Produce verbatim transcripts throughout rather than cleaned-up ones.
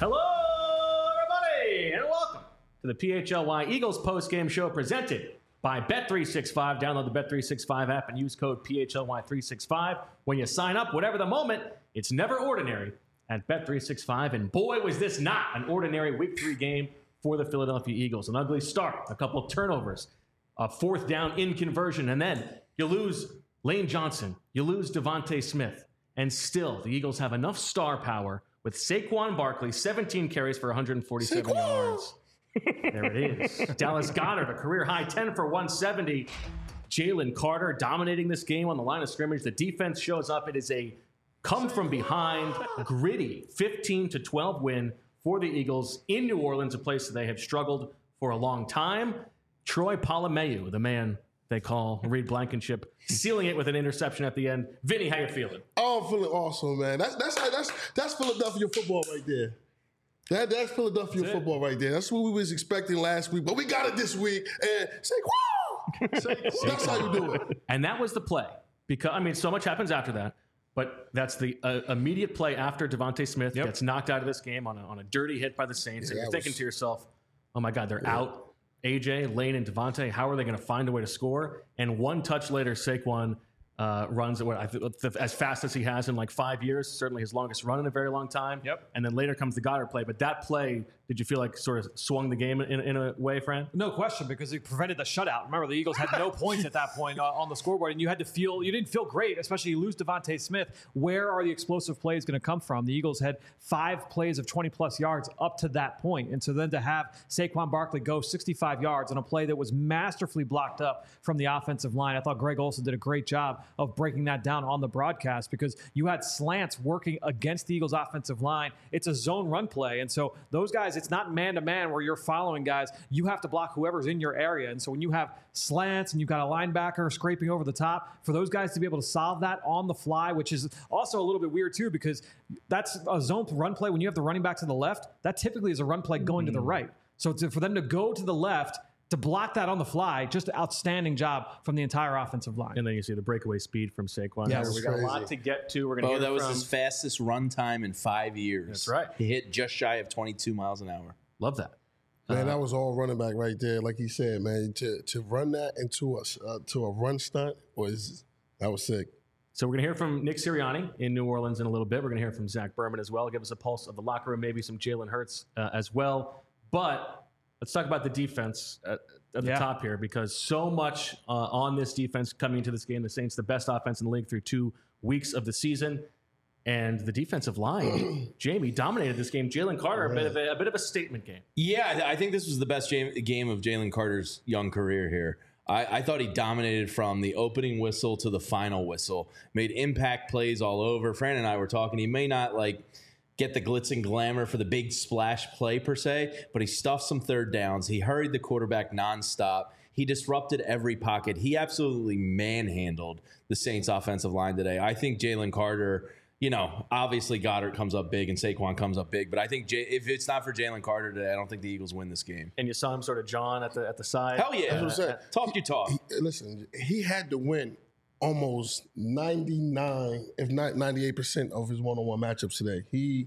Hello, everybody, and welcome to the P H L Y Eagles post-game show presented by Bet three sixty-five. Download the Bet three sixty-five app and use code P H L Y three sixty-five when you sign up. Whatever the moment, it's never ordinary at Bet three sixty-five. And boy, was this not an ordinary Week three game for the Philadelphia Eagles. An ugly start, a couple of turnovers, a fourth down in conversion, and then you lose Lane Johnson, you lose Devontae Smith, and still the Eagles have enough star power with Saquon Barkley, seventeen carries for one hundred forty-seven Saquon! Yards. There it is. Dallas Goedert, a career high, ten for one seventy. Jalen Carter dominating this game on the line of scrimmage. The defense shows up. It is a come from behind, gritty fifteen to twelve win for the Eagles in New Orleans, a place that they have struggled for a long time. Troy Polamalu, the man they call Reed Blankenship, sealing it with an interception at the end. Vinny, how you feeling? Oh, I'm feeling awesome, man. That's that's that's that's Philadelphia football right there. That that's Philadelphia that's football right there. That's what we was expecting last week, but we got it this week. And say, wow! That's how you do it. And that was the play. Because I mean, so much happens after that, but that's the uh, immediate play after Devontae Smith yep. gets knocked out of this game on a, on a dirty hit by the Saints. Yeah, and you're thinking was... to yourself, oh my God, they're yeah. out. A J, Lane, and Devontae, how are they going to find a way to score? And one touch later, Saquon uh, runs at what I th- as fast as he has in like five years, certainly his longest run in a very long time. Yep. And then later comes the Goddard play. But that play, did you feel like sort of swung the game in, in a way, Fran? No question, because it prevented the shutout. Remember, the Eagles had no points at that point uh, on the scoreboard, and you had to feel, you didn't feel great, especially you lose Devontae Smith. Where are the explosive plays going to come from? The Eagles had five plays of twenty-plus yards up to that point. And so then to have Saquon Barkley go sixty-five yards on a play that was masterfully blocked up from the offensive line, I thought Greg Olsen did a great job of breaking that down on the broadcast, because you had slants working against the Eagles offensive line. It's a zone run play. And so those guys, it's not man-to-man where you're following guys. You have to block whoever's in your area. And so when you have slants and you've got a linebacker scraping over the top, for those guys to be able to solve that on the fly, which is also a little bit weird too, because that's a zone run play. When you have the running back to the left, that typically is a run play going mm-hmm. to the right. So to, for them to go to the left, to block that on the fly, just an outstanding job from the entire offensive line. And then you see the breakaway speed from Saquon. Yeah, we got a lot to get to. We're going Oh, to that was from... his fastest run time in five years. That's right. He hit just shy of twenty-two miles an hour. Love that. Man, uh, that was all running back right there. Like he said, man, to to run that into a uh, to a run stunt was that was sick. So we're going to hear from Nick Sirianni in New Orleans in a little bit. We're going to hear from Zach Berman as well. Give us a pulse of the locker room, maybe some Jalen Hurts uh, as well. But let's talk about the defense at, at the yeah. top here, because so much uh, on this defense coming into this game. The Saints, the best offense in the league through two weeks of the season. And the defensive line, Jamie, dominated this game. Jalen Carter, a bit, of a, a bit of a statement game. Yeah, I think this was the best game of Jalen Carter's young career here. I, I thought he dominated from the opening whistle to the final whistle, made impact plays all over. Fran and I were talking. He may not like get the glitz and glamour for the big splash play per se, but he stuffed some third downs. He hurried the quarterback nonstop. He disrupted every pocket. He absolutely manhandled the Saints offensive line today. I think Jalen Carter, you know, obviously Goddard comes up big and Saquon comes up big, but I think J- if it's not for Jalen Carter today, I don't think the Eagles win this game. And you saw him sort of John at the at the side. Hell yeah. That's what I'm saying. Talk your talk. He, listen, he had to win almost ninety-nine, if not ninety-eight percent of his one-on-one matchups today. He,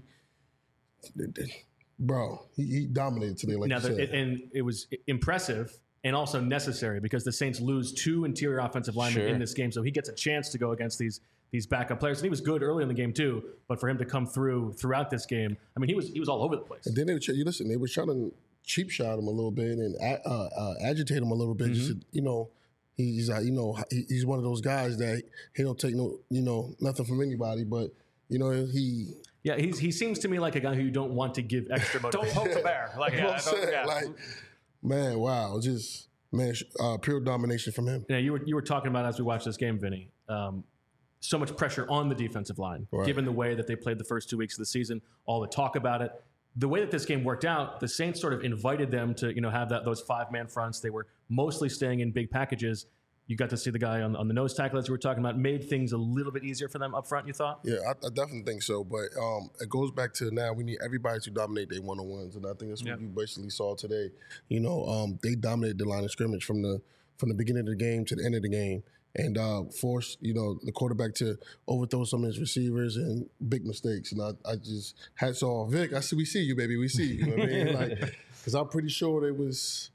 bro, he, he dominated today, like now, you said. The, and it was impressive and also necessary, because the Saints lose two interior offensive linemen Sure. in this game, so he gets a chance to go against these these backup players. And he was good early in the game too, but for him to come through throughout this game, I mean, he was he was all over the place. And then they were, you listen, they were trying to cheap shot him a little bit and uh, uh, agitate him a little bit. Mm-hmm. You know, he's uh, you know he's one of those guys that he don't take no you know nothing from anybody, but you know he. Yeah, he's, he seems to me like a guy who you don't want to give extra motivation. Don't poke the bear. Like, You know yeah, what I'm saying? yeah. Like, man, wow, just man, uh, pure domination from him. Yeah, you were you were talking about as we watched this game, Vinny. Um, so much pressure on the defensive line, Right. given the way that they played the first two weeks of the season. All the talk about it, the way that this game worked out, the Saints sort of invited them to you know have that those five man fronts. They were mostly staying in big packages. You got to see the guy on, on the nose tackle, as we were talking about, made things a little bit easier for them up front, you thought? Yeah, I, I definitely think so. But um, it goes back to now we need everybody to dominate their one-on-ones. And I think that's what Yep. you basically saw today. You know, um, they dominated the line of scrimmage from the from the beginning of the game to the end of the game. and uh, forced, you know, the quarterback to overthrow some of his receivers and big mistakes. And I, I just hats off, Vic. I see, we see you, baby. We see you. You know what I mean? Like, because I'm pretty sure there was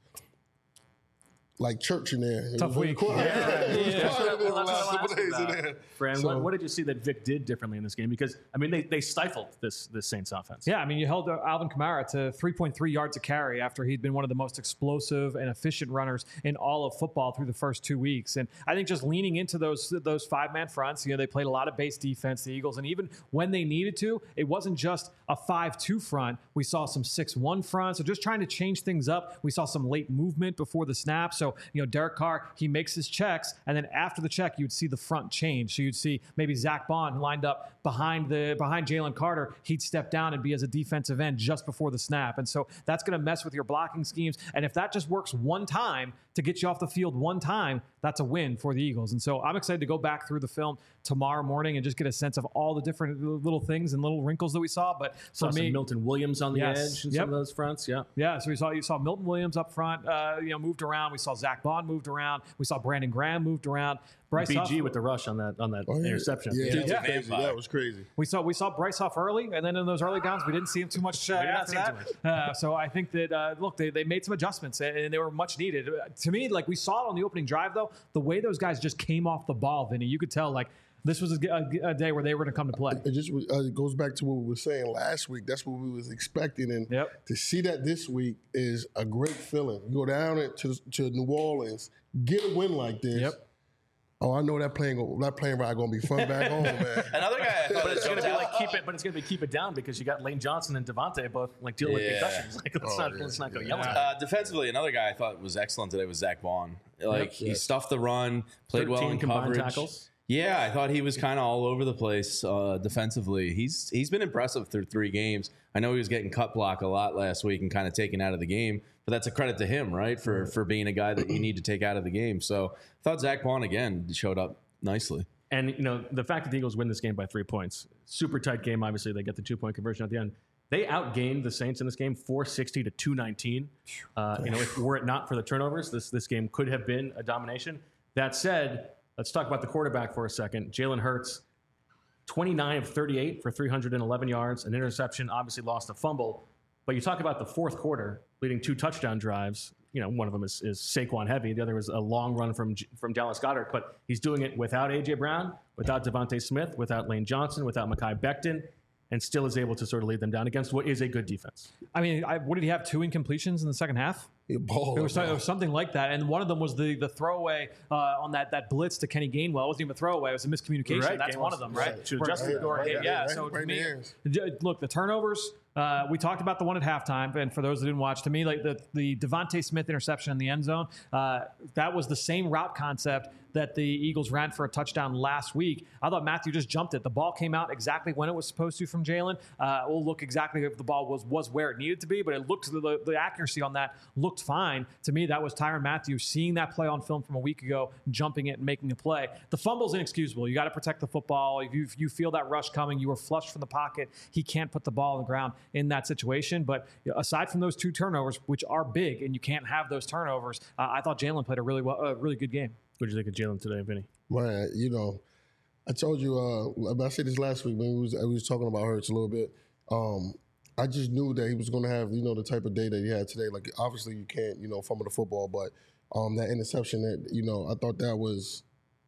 like church in there. It Tough was week. quiet. Yeah. It was Yeah. quiet in there the Well, that's last what couple I'll days ask in about. there. Fran, So- what, what did you see that Vic did differently in this game? Because, I mean, they, they stifled this, this Saints offense. Yeah, I mean, you held uh, Alvin Kamara to three point three yards a carry after he'd been one of the most explosive and efficient runners in all of football through the first two weeks. And I think just leaning into those those five-man fronts, you know, they played a lot of base defense, the Eagles, and even when they needed to, it wasn't just a five two front. We saw some six one front, so just trying to change things up. We saw some late movement before the snap. So, you know, Derek Carr, he makes his checks, and then after the check, you'd see the front change. So you'd see maybe Zach Bond lined up behind the behind Jalen Carter. He'd step down and be as a defensive end just before the snap. And so that's going to mess with your blocking schemes. And if that just works one time to get you off the field one time, that's a win for the Eagles. And so I'm excited to go back through the film tomorrow morning and just get a sense of all the different little things and little wrinkles that we saw. But Saw for some me, Milton Williams on the Yes. edge in Yep. some of those fronts. Yeah. yeah, so we saw you saw Milton Williams up front, uh, you know, moved around. We saw Zach Bond moved around. We saw Brandon Graham moved around. Bryce B G Huff- with the rush on that on that Oh, yeah. interception. Yeah, Yeah. that was Yeah. crazy. That was crazy. We saw we saw Bryce Huff early, and then in those early downs, we didn't see him too much uh, did not after see him that. too Uh, so I think that uh, look, they, they made some adjustments, and, and they were much needed. Uh, to me, like we saw it on the opening drive, though, the way those guys just came off the ball, Vinny, you could tell like this was a, a, a day where they were going to come to play. It just uh, it goes back to what we were saying last week. That's what we was expecting, and Yep. to see that this week is a great feeling. You go down it to to New Orleans, get a win like this. Yep. Oh, I know that plane go, that plane ride gonna be fun back home, man. Another guy I thought But it's going to jumped be out- like keep it, but it's going to be keep it down because you got Lane Johnson and Devontae both like dealing with Yeah. concussions. Like let's Oh, not yeah. let's not go Yeah. yelling. Uh, defensively, another guy I thought was excellent today was Zach Vaughn. Like he stuffed the run, played well in combined coverage. tackles. Yeah, I thought he was kind of all over the place uh, defensively. He's he's been impressive through three games. I know he was getting cut block a lot last week and kind of taken out of the game, but that's a credit to him, right, for for being a guy that you need to take out of the game. So I thought Zach Vaughn again showed up nicely. And you know the fact that the Eagles win this game by three points, super tight game. Obviously, they get the two point conversion at the end. They outgained the Saints in this game, four sixty to two nineteen. Uh, you know, if were it not for the turnovers, this this game could have been a domination. That said, let's talk about the quarterback for a second. Jalen Hurts, twenty-nine of thirty-eight for three hundred eleven yards, an interception. Obviously, lost a fumble. But you talk about the fourth quarter, leading two touchdown drives. You know, one of them is, is Saquon heavy. The other was a long run from from Dallas Goedert. But he's doing it without A J Brown, without Devontae Smith, without Lane Johnson, without Mekhi Becton, and still is able to sort of lead them down against what is a good defense. I mean, I, what did he have? Two incompletions in the second half? He balled, It was, man. it was something like that, and one of them was the the throwaway uh, on that that blitz to Kenny Gainwell. It wasn't even a throwaway; it was a miscommunication. Right, That's Gainwell's- one of them, right? right, should Where- adjust it. or- Right, right, yeah. right, So right to in me, the hands. j- look, the turnovers. Uh, we talked about the one at halftime, and for those that didn't watch, to me, like the the Devontae Smith interception in the end zone, uh, that was the same route concept that the Eagles ran for a touchdown last week. I thought Matthew just jumped it. The ball came out exactly when it was supposed to from Jalen. Uh, we'll look exactly if the ball was was where it needed to be, but it looked the, the accuracy on that looked fine. To me, that was Tyrann Mathieu seeing that play on film from a week ago, jumping it and making a play. The fumble's inexcusable. You got to protect the football. If you, if you feel that rush coming, you were flushed from the pocket. He can't put the ball on the ground in that situation. But aside from those two turnovers, which are big, and you can't have those turnovers, uh, I thought Jalen played a really well, a really good game. What did you think of Jalen today, Vinny? Man, you know, I told you, uh, I said this last week when we was, we was talking about Hurts a little bit. Um, I just knew that he was going to have, you know, the type of day that he had today. Like, obviously you can't, you know, fumble the football, but um, that interception, that you know, I thought that was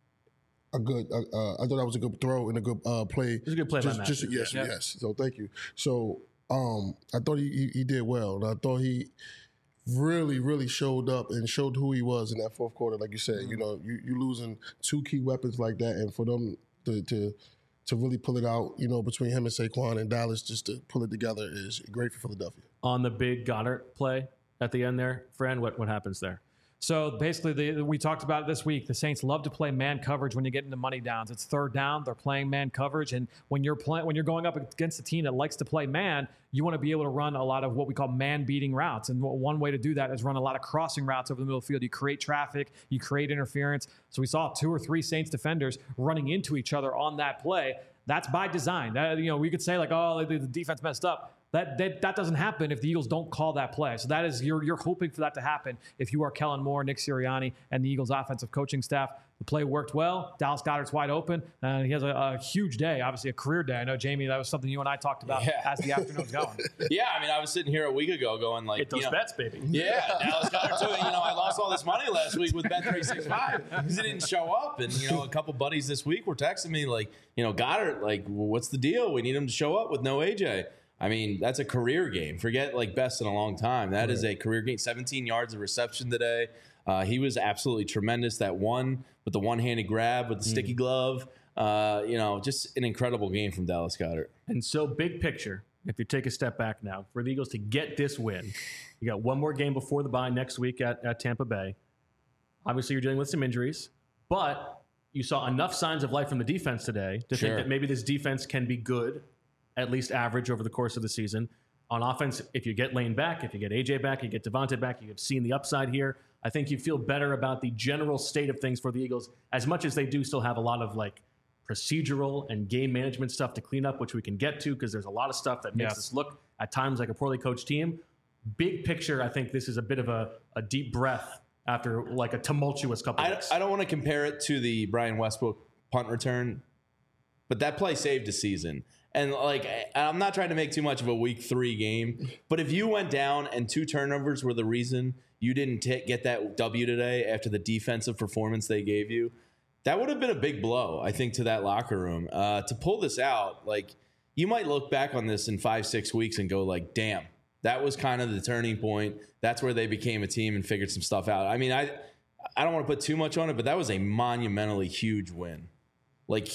a good, uh, uh, I thought that was a good throw and a good uh, play. It was a good play by just, Matthew. just Yes, Yeah. yes. So thank you. So um, I thought he, he, he did well. And I thought he really, really showed up and showed who he was in that fourth quarter. Like you said, Mm-hmm. you know, you you losing two key weapons like that, and for them to to to really pull it out, you know, between him and Saquon and Dallas, just to pull it together is great for Philadelphia. On the big Goddard play at the end there, Fran, what, what happens there? So basically, the, we talked about it this week. The Saints love to play man coverage when you get into money downs. It's third down; they're playing man coverage, and when you're playing, when you're going up against a team that likes to play man, you want to be able to run a lot of what we call man-beating routes. And one way to do that is run a lot of crossing routes over the middle of the field. You create traffic, you create interference. So we saw two or three Saints defenders running into each other on that play. That's by design. That, you know, we could say like, oh, the, the defense messed up. That, that that doesn't happen if the Eagles don't call that play. So that is you're you're hoping for that to happen if you are Kellen Moore, Nick Sirianni, and the Eagles offensive coaching staff. The play worked well. Dallas Goedert's wide open, and he has a, a huge day, obviously a career day. I know, Jamie, that was something you and I talked about yeah. as the afternoon's going. Yeah, I mean, I was sitting here a week ago going like, Get those you know, bets, baby. Yeah, Dallas Goedert too. You know, I lost all this money last week with Bet three sixty-five because he didn't show up. And, you know, a couple buddies this week were texting me like, you know, Goddard, like, well, what's the deal? We need him to show up with no A J. I mean, that's a career game. Forget like best in a long time. That right. is a career game. seventeen yards of reception today. Uh, he was absolutely tremendous. That one with the one-handed grab with the sticky mm. glove. Uh, you know, just an incredible game from Dallas Goedert. And so, big picture, if you take a step back now, for the Eagles to get this win, you got one more game before the bye next week at, at Tampa Bay. Obviously, you're dealing with some injuries, but you saw enough signs of life from the defense today to sure. think that maybe this defense can be good, at least average over the course of the season. On offense, if you get Lane back, if you get A J back, you get Devontae back, you have seen the upside here. I think you feel better about the general state of things for the Eagles, as much as they do still have a lot of like procedural and game management stuff to clean up, which we can get to because there's a lot of stuff that makes yes. us look at times like a poorly coached team. Big picture, I think this is a bit of a, a deep breath after like a tumultuous couple I, weeks. I don't want to compare it to the Brian Westbrook punt return, but that play saved a season. And like, I'm not trying to make too much of a week three game, but if you went down and two turnovers were the reason you didn't t- get that W today after the defensive performance they gave you, that would have been a big blow, I think, to that locker room. Uh, to pull this out, like, you might look back on this in five, six weeks and go like, damn, that was kind of the turning point. That's where they became a team and figured some stuff out. I mean, I I don't want to put too much on it, but that was a monumentally huge win. Like,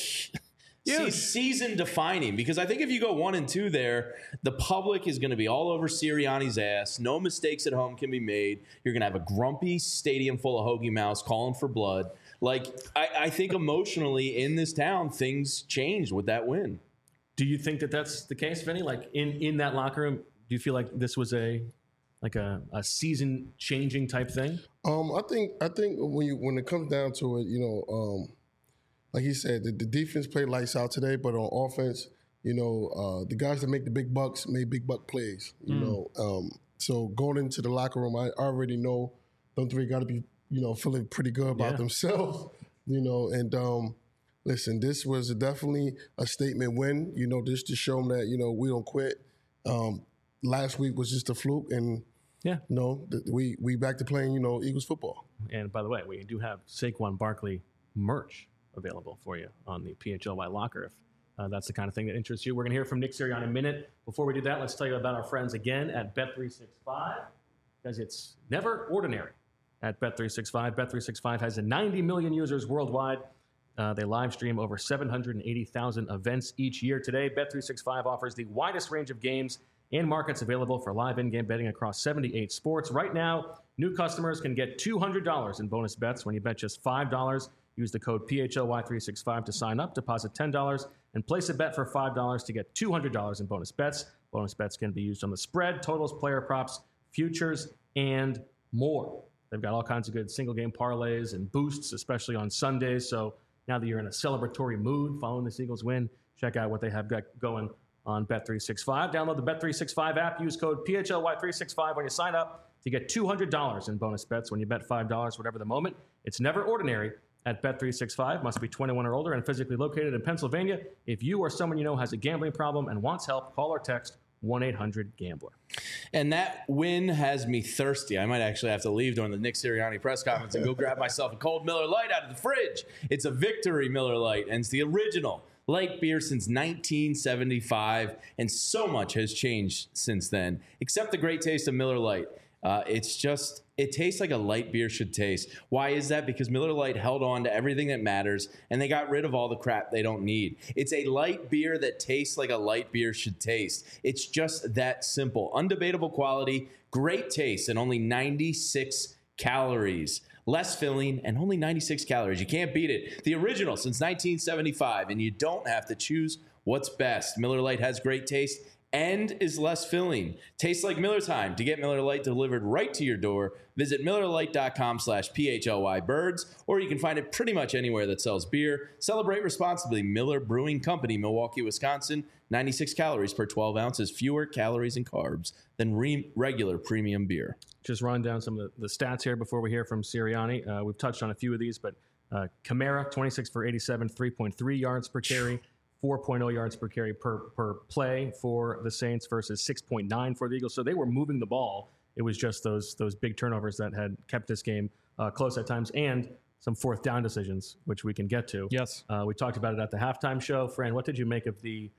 se- season defining, because I think if you go one and two there, the public is going to be all over Sirianni's ass. No mistakes at home can be made. You're going to have a grumpy stadium full of Hoagie Mouse calling for blood. Like, I, I think emotionally in this town, things changed with that win. Do you think that that's the case, Vinny? Like in, in that locker room, do you feel like this was a like a, a season changing type thing? Um, I think I think when you when it comes down to it, you know, um, like he said, the, the defense played lights out today, but on offense, you know, uh, the guys that make the big bucks made big buck plays. You mm. know, um, so going into the locker room, I already know them three got to be, you know, feeling pretty good about yeah. themselves, you know, and um, listen, this was definitely a statement win, you know, just to show them that, you know, we don't quit. Um, last week was just a fluke, and, yeah, you know, th- we, we back to playing, you know, Eagles football. And by the way, we do have Saquon Barkley merch available for you on the P H L Y locker if uh, that's the kind of thing that interests you. We're going to hear from Nick Sirianni in a minute. Before we do that, let's tell you about our friends again at Bet three sixty-five, because it's never ordinary at Bet three sixty-five. Bet three sixty-five has ninety million users worldwide. Uh, they live stream over seven hundred eighty thousand events each year. Today, Bet three sixty-five offers the widest range of games and markets available for live in-game betting across seventy-eight sports. Right now, new customers can get two hundred dollars in bonus bets when you bet just five dollars. Use the code P H L Y three sixty-five to sign up, deposit ten dollars, and place a bet for five dollars to get two hundred dollars in bonus bets. Bonus bets can be used on the spread, totals, player props, futures, and more. They've got all kinds of good single-game parlays and boosts, especially on Sundays. So now that you're in a celebratory mood following this Eagles win, check out what they have got going on Bet three sixty-five. Download the Bet three sixty-five app. Use code P H L Y three sixty-five when you sign up to get two hundred dollars in bonus bets when you bet five dollars, whatever the moment. It's never ordinary at Bet three sixty-five. Must be twenty-one or older and physically located in Pennsylvania. If you or someone you know has a gambling problem and wants help, call or text one eight hundred gambler. And that win has me thirsty. I might actually have to leave during the Nick Sirianni press conference and go grab myself a cold Miller Lite out of the fridge. It's a Victory Miller Lite, and it's the original light beer since nineteen seventy-five, and so much has changed since then, except the great taste of Miller Lite. Uh, it's just, it tastes like a light beer should taste. Why is that? Because Miller Lite held on to everything that matters, and they got rid of all the crap they don't need. It's a light beer that tastes like a light beer should taste. It's just that simple. Undebatable quality, great taste, and only ninety-six calories. Less filling and only ninety-six calories. You can't beat it. The original since nineteen seventy-five, and you don't have to choose what's best. Miller Lite has great taste and is less filling. Tastes like Miller time. To get Miller Lite delivered right to your door, visit MillerLite.com slash PHLY birds, or you can find it pretty much anywhere that sells beer. Celebrate responsibly. Miller Brewing Company, Milwaukee, Wisconsin. ninety-six calories per twelve ounces, fewer calories and carbs than re- regular premium beer. Just run down some of the, the stats here before we hear from Sirianni. Uh, we've touched on a few of these, but uh, Kamara, twenty-six for eighty-seven, three point three yards per carry, four point oh yards per carry per, per play for the Saints versus six point nine for the Eagles. So they were moving the ball. It was just those those big turnovers that had kept this game uh, close at times, and some fourth down decisions, which we can get to. Yes. Uh, we talked about it at the halftime show. Fran, what did you make of the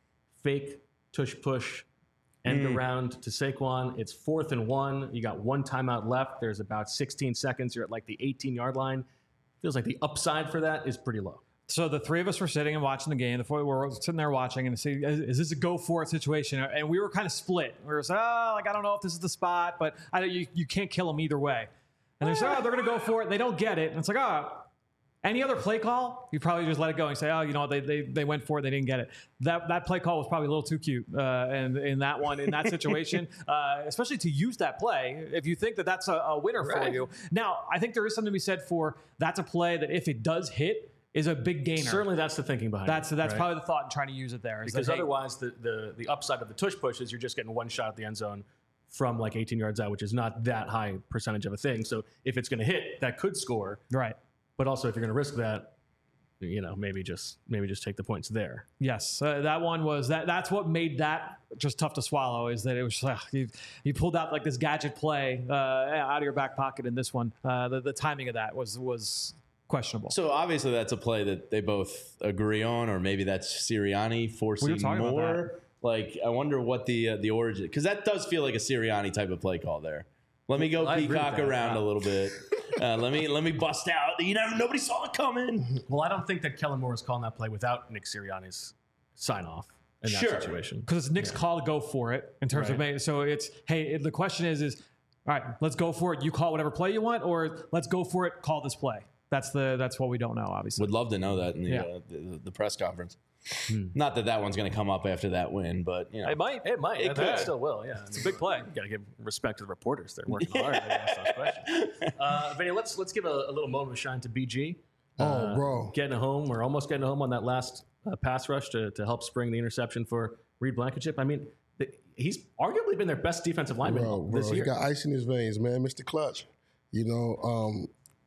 fake tush push end Mm. around to Saquon? It's fourth and one. You got one timeout left. There's about sixteen seconds. You're at like the eighteen-yard line. Feels like the upside for that is pretty low. So the three of us were sitting and watching the game. The four we were sitting there watching and saying, is, is this a go for it situation? And we were kind of split. We were saying, oh, like, I don't know if this is the spot, but I, you, you can't kill them either way. And they say, oh, they're going to go for it. They don't get it. And it's like, oh, any other play call, you probably just let it go and say, oh, you know, they they, they went for it. They didn't get it. That that play call was probably a little too cute. Uh, and in that one, in that situation, uh, especially to use that play, if you think that that's a, a winner Right. for you. Now, I think there is something to be said for that's a play that if it does hit, is a big gainer. Certainly that's the thinking behind That's it. that's right? probably the thought in trying to use it there. is Because that, hey, otherwise, the, the, the upside of the tush push is you're just getting one shot at the end zone from like eighteen yards out, which is not that high percentage of a thing. So if it's going to hit, that could score. right. But also, if you're going to risk that, you know, maybe just maybe just take the points there. Yes, uh, that one was that. That's what made that just tough to swallow. Is that it was uh, you, you pulled out like this gadget play uh, out of your back pocket in this one. Uh, the, the timing of that was was questionable. So obviously that's a play that they both agree on, or maybe that's Sirianni forcing talking about more. that. Like, I wonder what the uh, the origin, because that does feel like a Sirianni type of play call there. Let me go I agree with peacock that. around Wow. a little bit. Uh, let me let me bust out. You know, nobody saw it coming. Well, I don't think that Kellen Moore is calling that play without Nick Sirianni's sign off in that Sure. situation. Because it's Nick's call to go for it in terms of Right. making. So it's hey, the question is is all right, let's go for it. You call whatever play you want, or let's go for it. Call this play. That's the that's what we don't know, obviously. Would love to know that in the Yeah. uh, the, the press conference. Not that that one's going to come up after that win, but you know, It might. It might. It I think could. still will. Yeah, It's a big play. You got to give respect to the reporters. They're working hard to ask those questions. Uh, Vinny, let's let's give a, a little moment of shine to B G. Oh, Uh, bro. Getting home. We're almost getting home on that last uh, pass rush to, to help spring the interception for Reed Blankenship. I mean, th- he's arguably been their best defensive lineman Bro, bro, this he year. got ice in his veins, man. Mister Clutch. You know, um,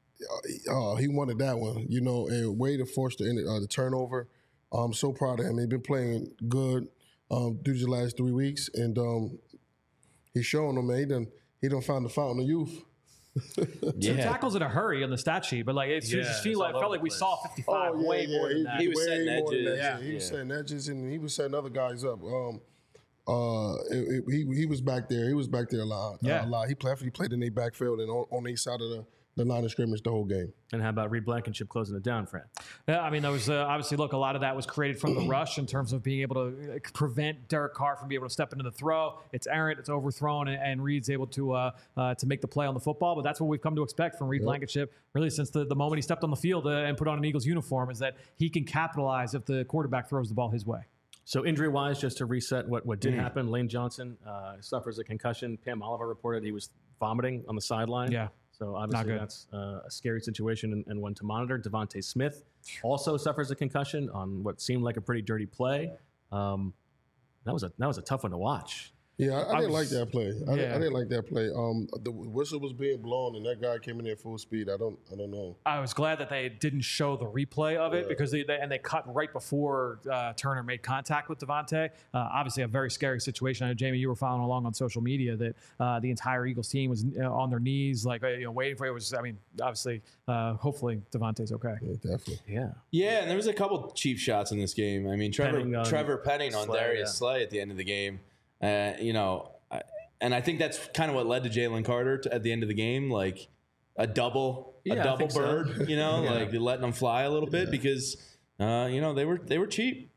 uh, he wanted that one. You know, and way to force the uh, the turnover. I'm so proud of him. He's been playing good um, through the last three weeks, and um, he's showing them, man. He done he done found the fountain of youth. Two yeah. tackles in a hurry on the stat sheet, but like it's Yeah, just it's feel like all felt over like we the saw place. fifty-five way more than that. He was way setting more than edges. that. Yeah. He was Yeah. setting edges, and he was setting other guys up. Um, uh, it, it, he he was back there. He was back there a lot. Yeah. a lot. He played. He played in the backfield and on, on the east side of the, the line of scrimmage the whole game. And how about Reed Blankenship closing it down, Fran? Yeah, I mean, there was uh, obviously look. A lot of that was created from the rush in terms of being able to uh, prevent Derek Carr from being able to step into the throw. It's errant, it's overthrown, and, and Reed's able to uh, uh, to make the play on the football. But that's what we've come to expect from Reed Blankenship, really since the, the moment he stepped on the field uh, and put on an Eagles uniform, is that he can capitalize if the quarterback throws the ball his way. So injury-wise, just to reset what, what did happen, Lane Johnson uh, suffers a concussion. Pam Oliver reported he was vomiting on the sideline. Yeah. So obviously good. that's uh, a scary situation and, and one to monitor. Devontae Smith also suffers a concussion on what seemed like a pretty dirty play. Um, that was a that was a tough one to watch. Yeah, I, I, I didn't was- like that play. I, didn't, yeah. I didn't like that play. Um, the whistle was being blown, and that guy came in there full speed. I don't, I don't know. I was glad that they didn't show the replay of it because they, they and they cut right before uh, Turner made contact with Devontae. Uh, obviously, a very scary situation. I know, Jamie, you were following along on social media that uh, the entire Eagles team was uh, on their knees, like uh, you know, waiting for it. It was, I mean, obviously, uh, hopefully Devontae's okay. Yeah, definitely. Yeah. Yeah, and there was a couple cheap shots in this game. I mean, Trevor Penning on Trevor Penning on Slay, Darius yeah. Slay at the end of the game. Uh, you know, I, and I think that's kind of what led to Jalen Carter to, at the end of the game, like a double, Yeah, I a double think so. bird. You know, Yeah. like letting them fly a little bit because uh, you know they were they were cheap.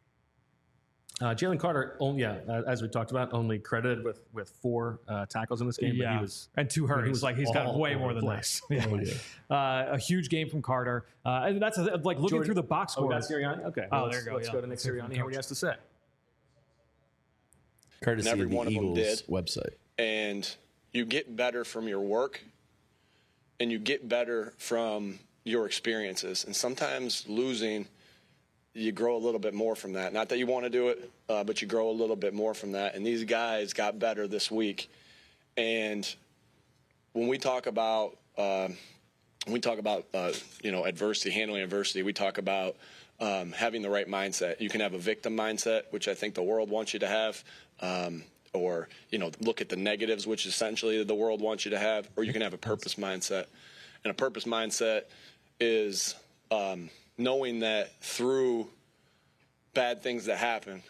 Uh, Jalen Carter, only, yeah, uh, as we talked about, only credited with with four uh, tackles in this game. But Yeah, he was and two hurries. he was like he's got all way over more the than place. that. Yeah. Uh, a huge game from Carter, uh, and that's a, like looking Jordan- through the box Oh, we score. got Sirianni? Okay. Oh, let's, there you go, Let's yeah. go to Nick Let's hear from Sirianni. Hear what he has to say. Courtesy every of the one of them Eagles did. website. And you get better from your work and you get better from your experiences. And sometimes losing you grow a little bit more from that. Not that you want to do it, uh, but you grow a little bit more from that. And these guys got better this week. And when we talk about uh, when we talk about uh, you know adversity, handling adversity, we talk about um, having the right mindset. You can have a victim mindset, which I think the world wants you to have. Um, or, you know, look at the negatives, which essentially the world wants you to have, or you can have a purpose mindset. And a purpose mindset is um, knowing that through bad things that happen,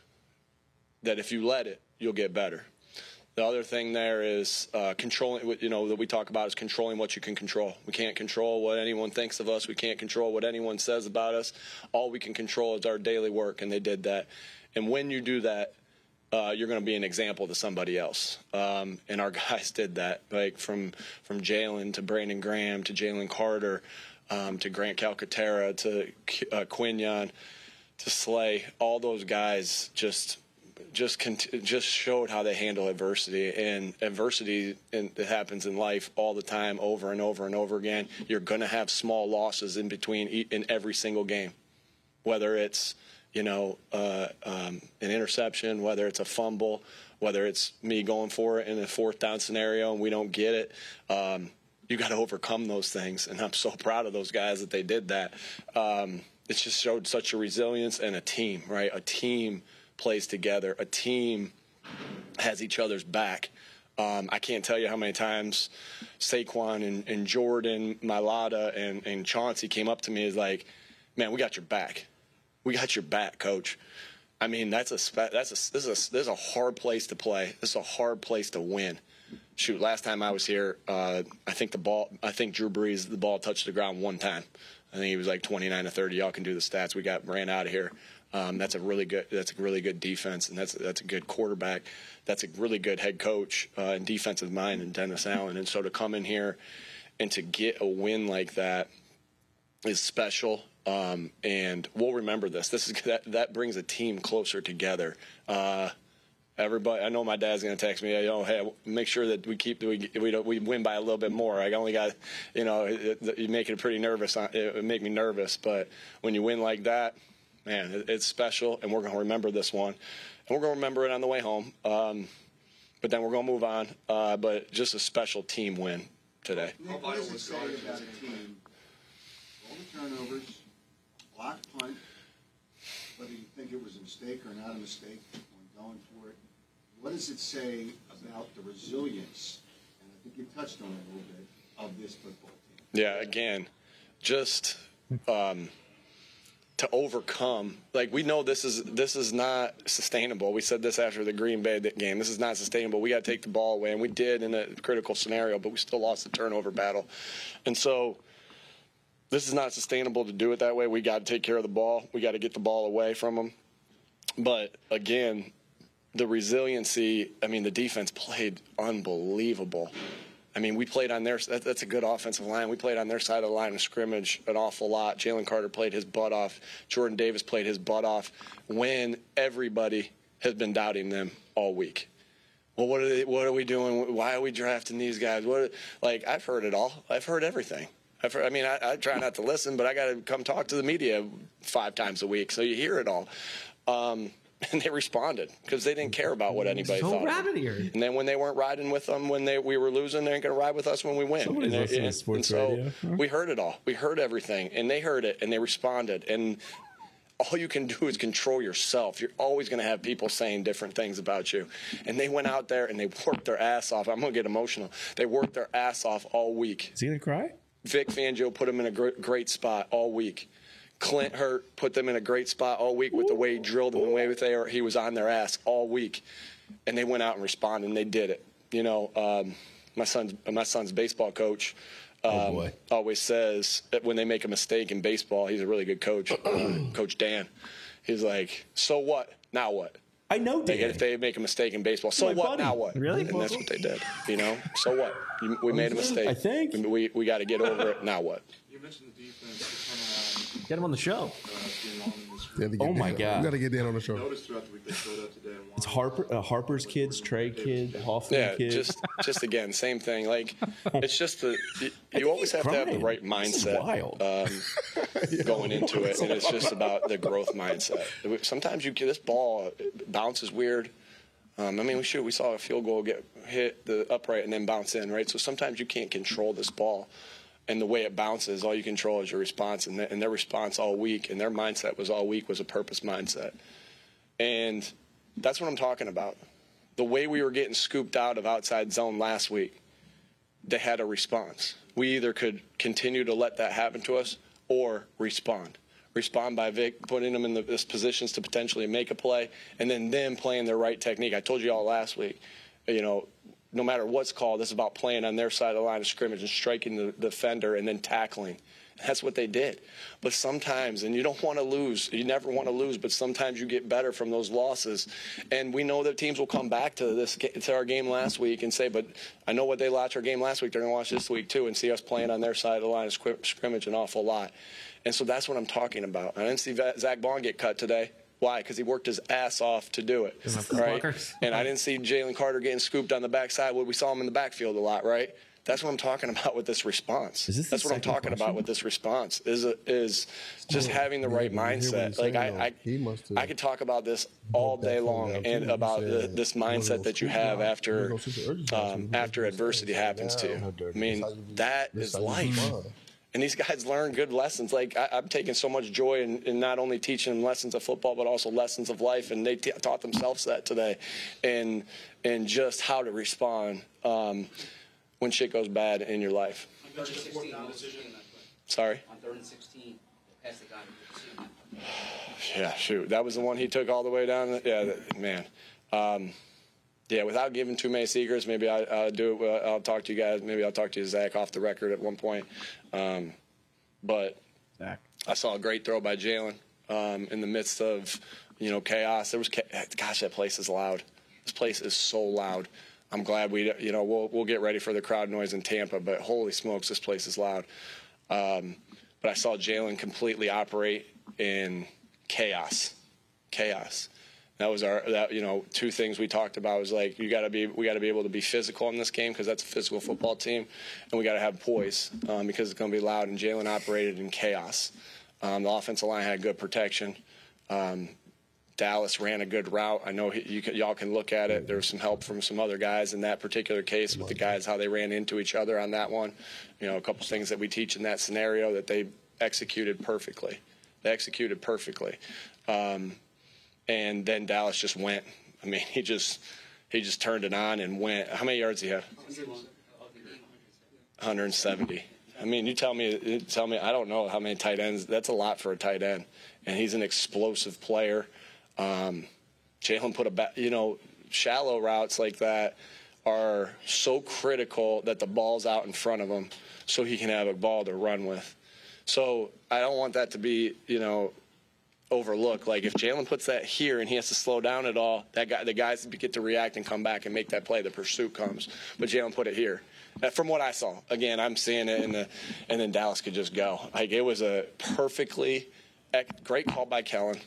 that if you let it, you'll get better. The other thing there is uh, controlling, you know, that we talk about is controlling what you can control. We can't control what anyone thinks of us. We can't control what anyone says about us. All we can control is our daily work, and they did that. And when you do that, Uh, you're going to be an example to somebody else. Um, and our guys did that, like from from Jalen to Brandon Graham to Jalen Carter um, to Grant Calcaterra to uh, Quinyon to Slay. All those guys just just cont- just showed how they handle adversity. And adversity in, that happens in life all the time, over and over and over again. You're going to have small losses in between in every single game, whether it's you know, uh, um, an interception, whether it's a fumble, whether it's me going for it in a fourth down scenario and we don't get it. Um, you got to overcome those things, and I'm so proud of those guys that they did that. Um, it's just showed such a resilience and a team, right? A team plays together. A team has each other's back. Um, I can't tell you how many times Saquon and, and Jordan, Mailata, and, and Chauncey came up to me as like, man, we got your back. We got your back, coach. I mean, that's a that's a this is a, this is a hard place to play. This is a hard place to win. Shoot, last time I was here, uh, I think the ball. I think Drew Brees, the ball touched the ground one time. I think he was like twenty-nine to thirty. Y'all can do the stats. We got ran out of here. Um, that's a really good. That's a really good defense, and that's that's a good quarterback. That's a really good head coach uh, and defensive mind in Dennis Allen. And so to come in here and to get a win like that is special. Um, and we'll remember this. This is that, that brings a team closer together. Uh, everybody, I know my dad's going to text me. You know, hey, make sure that we keep we we, don't, we win by a little bit more. I only got, you know, it, it, you make it pretty nervous. It would make me nervous. But when you win like that, man, it, it's special. And we're going to remember this one, and we're going to remember it on the way home. Um, but then we're going to move on. Uh, but just a special team win today. Nick, what does it say about a team? All the turnovers. Block punt, whether you think it was a mistake or not a mistake when going for it. What does it say about the resilience, and I think you touched on it a little bit, of this football team? Yeah, again, just um, to overcome. Like, we know this is this is not sustainable. We said this after the Green Bay game. This is not sustainable. We got to take the ball away, and we did in a critical scenario, but we still lost the turnover battle. And so this is not sustainable to do it that way. We got to take care of the ball. We got to get the ball away from them. But, again, the resiliency, I mean, the defense played unbelievable. I mean, we played on their that, – that's a good offensive line. We played on their side of the line of scrimmage an awful lot. Jalen Carter played his butt off. Jordan Davis played his butt off when everybody has been doubting them all week. Well, what are they, what are we doing? Why are we drafting these guys? What like I've heard it all. I've heard everything. I've heard, I mean, I, I try not to listen, but I got to come talk to the media five times a week, so you hear it all. Um, and they responded because they didn't care about what anybody so thought. rabbit eared. And then when they weren't riding with them when they we were losing, they ain't going to ride with us when we win. Somebody's and, listening and, to sports and so radio. Huh? we heard it all. We heard everything, and they heard it, and they responded. And all you can do is control yourself. You're always going to have people saying different things about you. And they went out there and they worked their ass off. I'm going to get emotional. They worked their ass off all week. Is he gonna cry? Vic Fangio put them in a great, great spot all week. Clint Hurt put them in a great spot all week with the way he drilled them, the way they were, he was on their ass all week. And they went out and responded, and they did it. You know, um, my son's my son's baseball coach um, oh boy. always says that when they make a mistake in baseball, he's a really good coach, uh, Coach Dan. He's like, so what? Now what? I know Dan. Like, if they make a mistake in baseball, so My what? buddy. Now what? Really? And that's what they did. You know, so what? You, we made a mistake. I think. we we got to get over it. Now what? You mentioned the defense, the turnaround. Get him on the show. Oh, my God. We got to get Dan on the show. Noticed throughout the week they showed up today and It's Harper, uh, Harper's kids, Trey kid, Hoffman Yeah, kid. just just again, same thing. Like it's just the you, you always have to have the crying. right This is mindset wild. um, going into it, and it's just about the growth mindset. Sometimes you get this ball bounces weird. Um, I mean, we shoot. We saw a field goal get hit the upright and then bounce in, right? So sometimes you can't control this ball. And the way it bounces, all you control is your response. And, the, and their response all week, and their mindset was all week was a purpose mindset. And that's what I'm talking about. The way we were getting scooped out of outside zone last week, they had a response. We either could continue to let that happen to us or respond. Respond by Vic putting them in the this positions to potentially make a play, and then them playing their right technique. I told you all last week, you know, no matter what's called, it's about playing on their side of the line of scrimmage and striking the defender and then tackling. That's what they did. But sometimes, and you don't want to lose, you never want to lose, but sometimes you get better from those losses. And we know that teams will come back to this to our game last week and say, but I know what they watched our game last week, they're going to watch this week too and see us playing on their side of the line of scrimmage an awful lot. And so that's what I'm talking about. I didn't see Zach Bond get cut today. Why? Because he worked his ass off to do it, right? And I didn't see Jalen Carter getting scooped on the backside. Well, we saw him in the backfield a lot, right? That's what I'm talking about with this response. Is this That's the what I'm second talking question? about with this response. Is is just Yeah, having the yeah, right but you hear what mindset. he's Like saying, I, I, though. He must have I could talk about this all broke that day phone long down, and too. He about the, said this one of mindset those that you scoop have jobs, after one of those super urgent jobs, um, you after just adversity say, happens to "Down, you. dirty. I mean, That's how you be- that that's is how you be life. fine." And these guys learn good lessons. Like I, I'm taking so much joy in, in not only teaching them lessons of football, but also lessons of life. And they t- taught themselves that today, and and just how to respond um, when shit goes bad in your life. On third and sixteen, what decision in that play? Sorry. On third and sixteen, the pass that got him. What decision in that play? Yeah, shoot, that was the one he took all the way down. Yeah, that, man. Um, yeah, without giving too many secrets, maybe I, I'll do it. I'll talk to you guys. Maybe I'll talk to you, Zach, off the record at one point. Um, but Zach. I saw a great throw by Jalen um, in the midst of, you know, chaos. There was, gosh, that place is loud. This place is so loud. I'm glad we, you know, we'll we'll get ready for the crowd noise in Tampa. But holy smokes, this place is loud. Um, but I saw Jalen completely operate in chaos, chaos. That was our, that, you know, two things we talked about was like, you got to be, we got to be able to be physical in this game because that's a physical football team, and we got to have poise um, because it's going to be loud. And Jalen operated in chaos. Um, the offensive line had good protection. Um, Dallas ran a good route. I know he, you can, y'all can look at it. There was some help from some other guys in that particular case with the guys, how they ran into each other on that one. You know, a couple things that we teach in that scenario that they executed perfectly. They executed perfectly. Um, And then Dallas just went. I mean, he just he just turned it on and went. How many yards did he have? one hundred seventy. I mean, you tell me, you tell me. I don't know how many tight ends. That's a lot for a tight end, and he's an explosive player. Um, Jalen put a back. You know, shallow routes like that are so critical that the ball's out in front of him, so he can have a ball to run with. So I don't want that to be, you know, overlook. Like if Jalen puts that here and he has to slow down at all, that guy, the guys get to react and come back and make that play. The pursuit comes, but Jalen put it here. Uh, from what I saw, again, I'm seeing it in the, and then Dallas could just go. Like it was a perfectly great call by Kellen,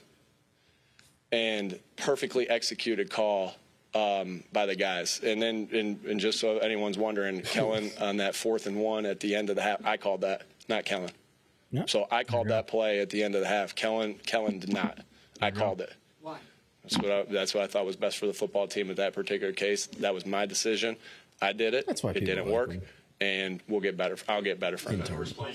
and perfectly executed call um, by the guys. And then, and, and just so anyone's wondering, Kellen on that fourth and one at the end of the half, I called that, not Kellen. No. So I called that play at the end of the half. Kellen, Kellen did not. I called it. Why? That's what I, that's what I thought was best for the football team in that particular case. That was my decision. I did it. That's why it people didn't like work, him. and we'll get better. I'll get better from it.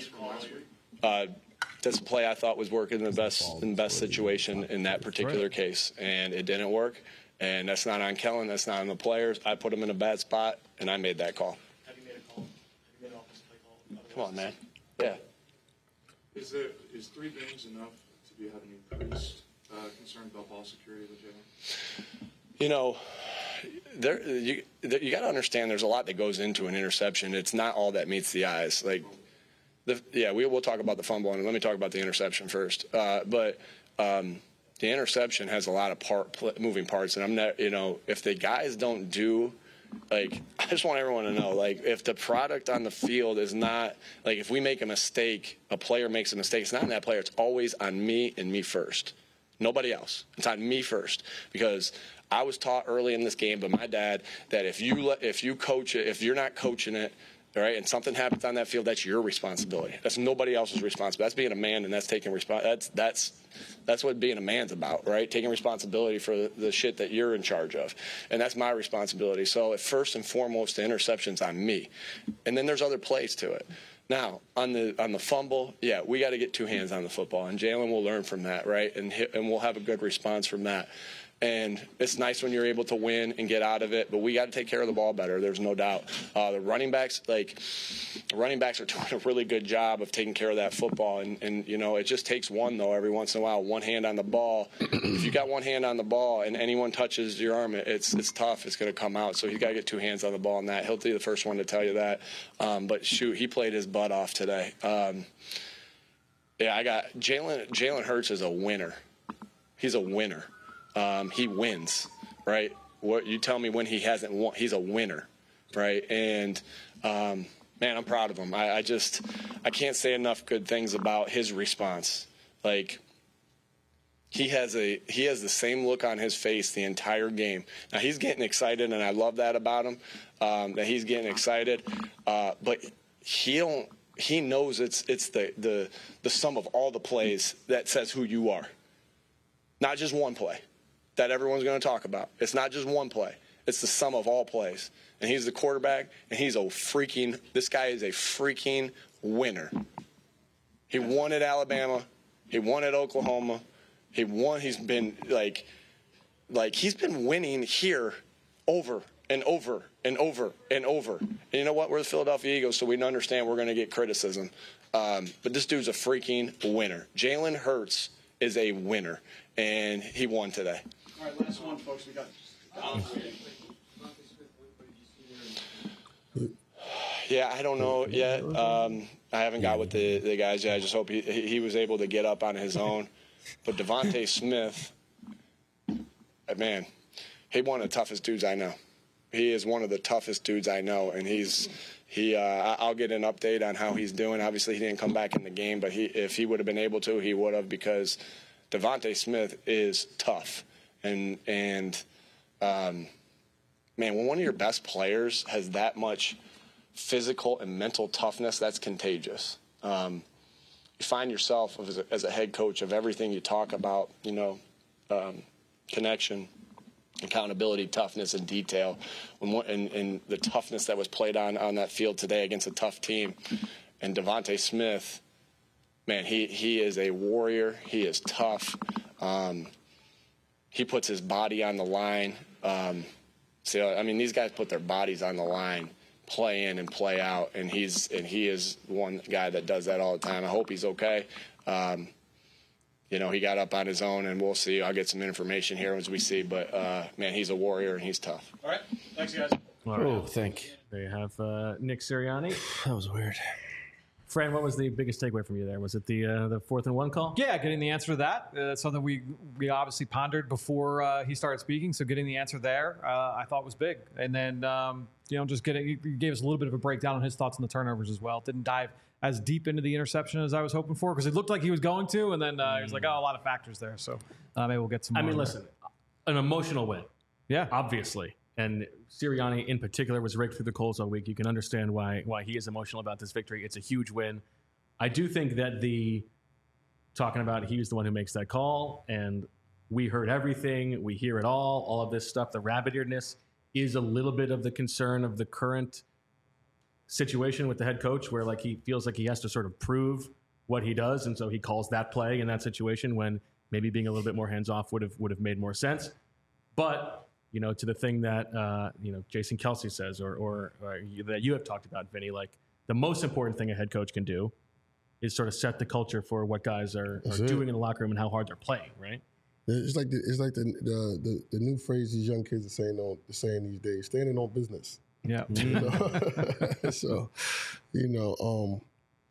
Uh, that's a play I thought was working in the best in the best situation in that particular case, and it didn't work. And that's not on Kellen. That's not on the players. I put them in a bad spot, and I made that call. Have you made a call? Have you made an offensive play call? Come on, man. Yeah. Is there is three games enough to be having increased uh, concern about ball security with Jalen? You know, there you there, you got to understand. There's a lot that goes into an interception. It's not all that meets the eyes. Like, the, yeah, we will talk about the fumble, and let me talk about the interception first. Uh, but um, the interception has a lot of part moving parts, and I'm not. You know, if the guys don't do like, I just want everyone to know, like, if the product on the field is not, like, if we make a mistake, a player makes a mistake, it's not on that player. It's always on me and me first. Nobody else. It's on me first. Because I was taught early in this game by my dad that if you let, if you coach it, if you're not coaching it, all right, and something happens on that field, that's your responsibility. That's nobody else's responsibility. That's being a man, and that's taking response. That's that's that's what being a man's about, right? Taking responsibility for the, the shit that you're in charge of, and that's my responsibility. So, if first and foremost, the interception's on me, and then there's other plays to it. Now, on the on the fumble, yeah, we got to get two hands on the football, and Jalen will learn from that, right? And hit, and we'll have a good response from that. And it's nice when you're able to win and get out of it, but we got to take care of the ball better. There's no doubt. Uh, the running backs, like, the running backs are doing a really good job of taking care of that football. And, and, you know, it just takes one, though, every once in a while, one hand on the ball. If you got one hand on the ball and anyone touches your arm, it's it's tough. It's going to come out. So you got to get two hands on the ball on that. He'll be the first one to tell you that. Um, but, shoot, he played his butt off today. Um, yeah, I got Jalen Jalen Hurts is a winner. He's a winner. Um, he wins, right? What you tell me when he hasn't won, he's a winner, right? And um, man, I'm proud of him. I, I just I can't say enough good things about his response. Like he has a he has the same look on his face the entire game. Now he's getting excited, and I love that about him. Um, that he's getting excited, uh, but he don't. He knows it's it's the the the sum of all the plays that says who you are, not just one play that everyone's going to talk about. It's not just one play. It's the sum of all plays. And he's the quarterback, and he's a freaking – this guy is a freaking winner. He won at Alabama. He won at Oklahoma. He won – he's been like – like he's been winning here over and over and over and over. And you know what? We're the Philadelphia Eagles, so we understand we're going to get criticism. Um, but this dude's a freaking winner. Jalen Hurts is a winner, and he won today. All right, last one, folks. We got. Yeah, I don't know yet. Um, I haven't got with the, the guys yet. I just hope he he was able to get up on his own. But Devontae Smith, man, he one of the toughest dudes I know. He is one of the toughest dudes I know, and he's he. Uh, I'll get an update on how he's doing. Obviously, he didn't come back in the game, but he if he would have been able to, he would have, because Devontae Smith is tough. And, and um, man, when one of your best players has that much physical and mental toughness, that's contagious. Um, you find yourself as a, as a head coach of everything you talk about, you know, um, connection, accountability, toughness, and detail, and, and, and the toughness that was played on, on that field today against a tough team. And Devontae Smith, man, he, he is a warrior. He is tough. Um, He puts his body on the line. Um, so I mean, these guys put their bodies on the line, play in and play out, and he's and he is one guy that does that all the time. I hope he's okay. Um, you know, he got up on his own, and we'll see. I'll get some information here as we see. But uh, man, he's a warrior and he's tough. All right, thanks, guys. All right. Oh, thank you. There you have uh, Nick Sirianni. That was weird. Fran, what was the biggest takeaway from you there? Was it the uh, the fourth and one call? Yeah, getting the answer to that. Uh, that's something we we obviously pondered before uh, he started speaking. So getting the answer there, uh, I thought was big. And then um, you know, just getting he gave us a little bit of a breakdown on his thoughts on the turnovers as well. Didn't dive as deep into the interception as I was hoping for, because it looked like he was going to, and then uh, he was like, oh, a lot of factors there. So uh, maybe we'll get some. I more mean, there. listen, an emotional win. Yeah, obviously. And Sirianni in particular was raked through the coals all week. You can understand why why he is emotional about this victory. It's a huge win. I do think that the talking about he's the one who makes that call, and we heard everything, we hear it all, all of this stuff, the rabbit-earedness is a little bit of the concern of the current situation with the head coach, where like he feels like he has to sort of prove what he does, and so he calls that play in that situation when maybe being a little bit more hands-off would have would have made more sense. But you know, to the thing that uh, you know Jason Kelce says, or, or, or you, that you have talked about, Vinny, like the most important thing a head coach can do is sort of set the culture for what guys are, are doing in the locker room and how hard they're playing, right? It's like the, it's like the, the the the new phrase these young kids are saying on saying these days: standing on business. Yeah. You know? So, you know, um,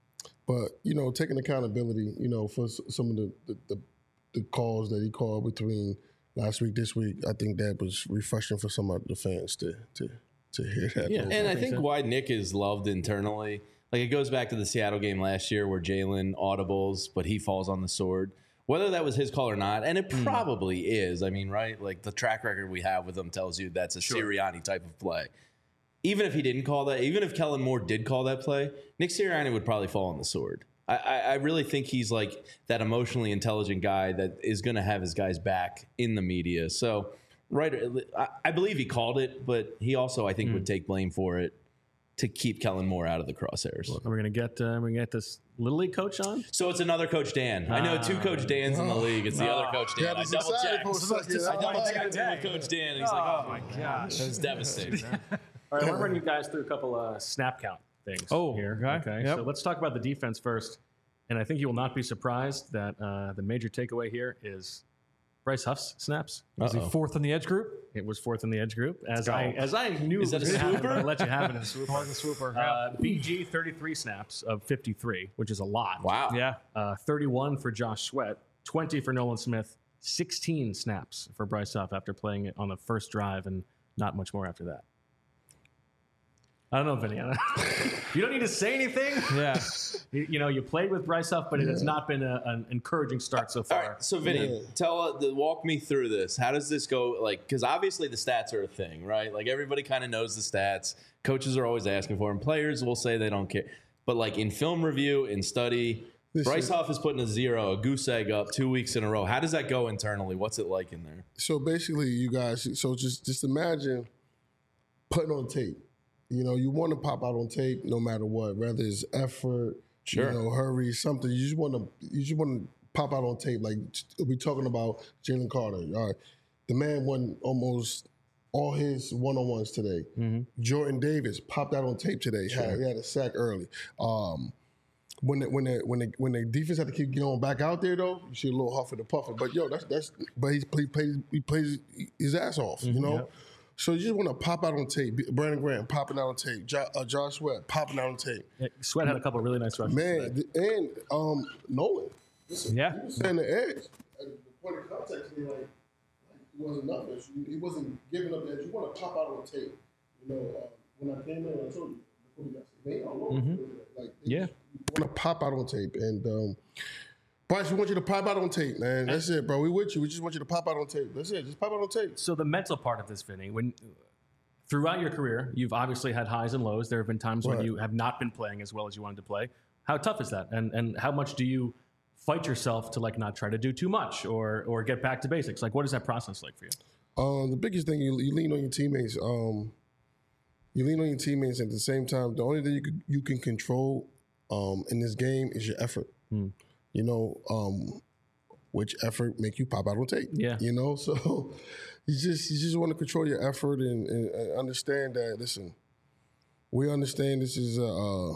but you know, taking accountability, you know, for some of the the, the the calls that he called between last week, this week, I think that was refreshing for some of the fans to to to hear that. Yeah. though. And I think think so. why Nick is loved internally, like it goes back to the Seattle game last year where Jalen audibles, but he falls on the sword. Whether that was his call or not, and it probably is. I mean, right? Like the track record we have with him tells you that's a Sirianni type of play. Even if he didn't call that, even if Kellen Moore did call that play, Nick Sirianni would probably fall on the sword. I, I, I really think he's like that emotionally intelligent guy that is going to have his guys back in the media. So, right, I, I believe he called it, but he also, I think, would take blame for it to keep Kellen Moore out of the crosshairs. Are we gonna get uh, we gonna get this little league coach on? So it's another Coach Dan. I know two Coach Dans in the league. It's the other Coach Dan. Yeah, I this double excited checked. for a second. I double I checked in with Coach Dan, and he's like, "Oh my gosh, that was devastating." All right, I want to run you guys through a couple uh, snap count things Oh, here. okay. Okay, Yep. so let's talk about the defense first. And I think you will not be surprised that uh, the major takeaway here is Bryce Huff's snaps. Was he Uh-oh. fourth in the edge group? It was fourth in the edge group. As I as I knew Is it that was a gonna happen, swooper? I let you have it in a swooper. Part of the swooper. yeah. Uh, B G thirty-three snaps of fifty-three, which is a lot. Wow. yeah. Uh, thirty-one for Josh Sweat, twenty for Nolan Smith, sixteen snaps for Bryce Huff after playing it on the first drive, and not much more after that. I don't know, Vinny. I don't- you don't need to say anything. Yeah. You, you know, you played with Bryce Huff, but it has not been a, an encouraging start so All far. right, so Vinny, Yeah. tell uh, the, walk me through this. How does this go? Like, because obviously the stats are a thing, right? Like everybody kind of knows the stats. Coaches are always asking for them. Players will say they don't care. But like in film review, in study, Listen. Bryce Huff is putting a zero, a goose egg up two weeks in a row. How does that go internally? What's it like in there? So basically, you guys, so just just imagine putting on tape. You know, you want to pop out on tape no matter what, whether it's effort, Sure. you know, hurry, something. You just want to, you just want to pop out on tape. Like we're talking about Jalen Carter. All right, the man won almost all his one-on-ones today. Jordan Davis popped out on tape today. Had, he had a sack early. Um, when the, when the, when the, when the defense had to keep going back out there though, you see a little huffing and puffing. But yo, that's that's. But he, he plays he plays his ass off. You know. So you just want to pop out on tape. Brandon Graham popping out on tape. Jo- uh, Josh Sweat popping out on tape. Yeah, Sweat had a couple of really nice rushes. Man, today. th- and um, Nolan. Listen, Yeah. he was saying the edge. At the point of contact, he like, like he wasn't nothing. He wasn't giving up the edge. You want to pop out on tape. You know, uh, when I came in, I told you before we got they all over. Like, they Yeah. just- you want to pop out on tape. And um, Bryce, we want you to pop out on tape, man. That's it, bro. We with you. We just want you to pop out on tape. That's it. Just pop out on tape. So the mental part of this, Vinny, when throughout your career, you've obviously had highs and lows. There have been times when Right. you have not been playing as well as you wanted to play. How tough is that? And and how much do you fight yourself to like not try to do too much or or get back to basics? Like, what is that process like for you? Um, the biggest thing you, you lean on your teammates. Um, you lean on your teammates at the same time. The only thing you can, you can control um, in this game is your effort. You know, um, which effort make you pop out on tape. Yeah. You know, so you just you just want to control your effort and, and, and understand that. Listen, we understand this is a a,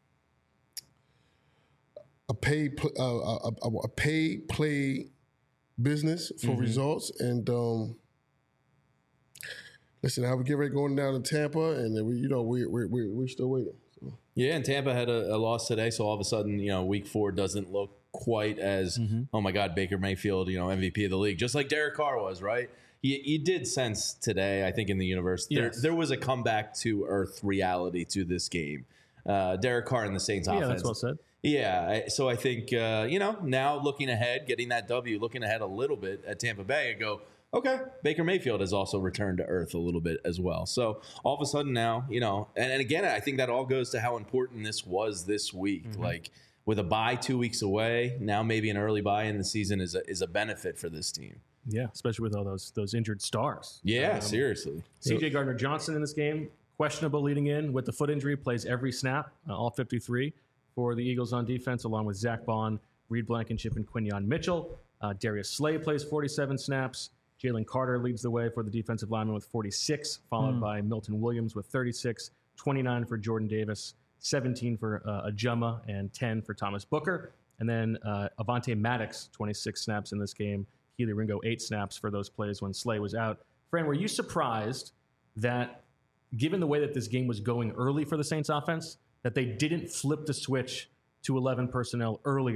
a paid pl- uh, a, a, a paid play business for results, and um, listen, how we get ready going down to Tampa, and then we, you know, we we we we're still waiting. So. Yeah, and Tampa had a, a loss today, so all of a sudden, you know, week four doesn't look quite as, oh my God, Baker Mayfield, you know, M V P of the league, just like Derek Carr was, right? You, you did sense today, I think, in the universe, there, Yes. there was a comeback to earth reality to this game. Uh, Derek Carr and the Saints Yeah, offense. that's well said. Yeah, I- so I think, uh, you know, now looking ahead, getting that W, looking ahead a little bit at Tampa Bay and go, okay, Baker Mayfield has also returned to earth a little bit as well. So all of a sudden now, you know, and, and again, I think that all goes to how important this was this week. Mm-hmm. Like with a bye two weeks away, now maybe an early bye in the season is a, is a benefit for this team. Yeah, especially with all those those injured stars. Yeah, Um, seriously. C J Gardner Johnson in this game, questionable leading in with the foot injury, plays every snap, uh, all fifty-three for the Eagles on defense, along with Zach Bond, Reed Blankenship, and Quinyon Mitchell. Uh, Darius Slay plays forty-seven snaps. Jalen Carter leads the way for the defensive lineman with forty-six, followed by Milton Williams with thirty-six, twenty-nine for Jordan Davis, seventeen for uh, Ajuma, and ten for Thomas Booker. And then uh, Avante Maddox, twenty-six snaps in this game. Keely Ringo, eight snaps for those plays when Slay was out. Fran, were you surprised that, given the way that this game was going early for the Saints offense, that they didn't flip the switch to eleven personnel earlier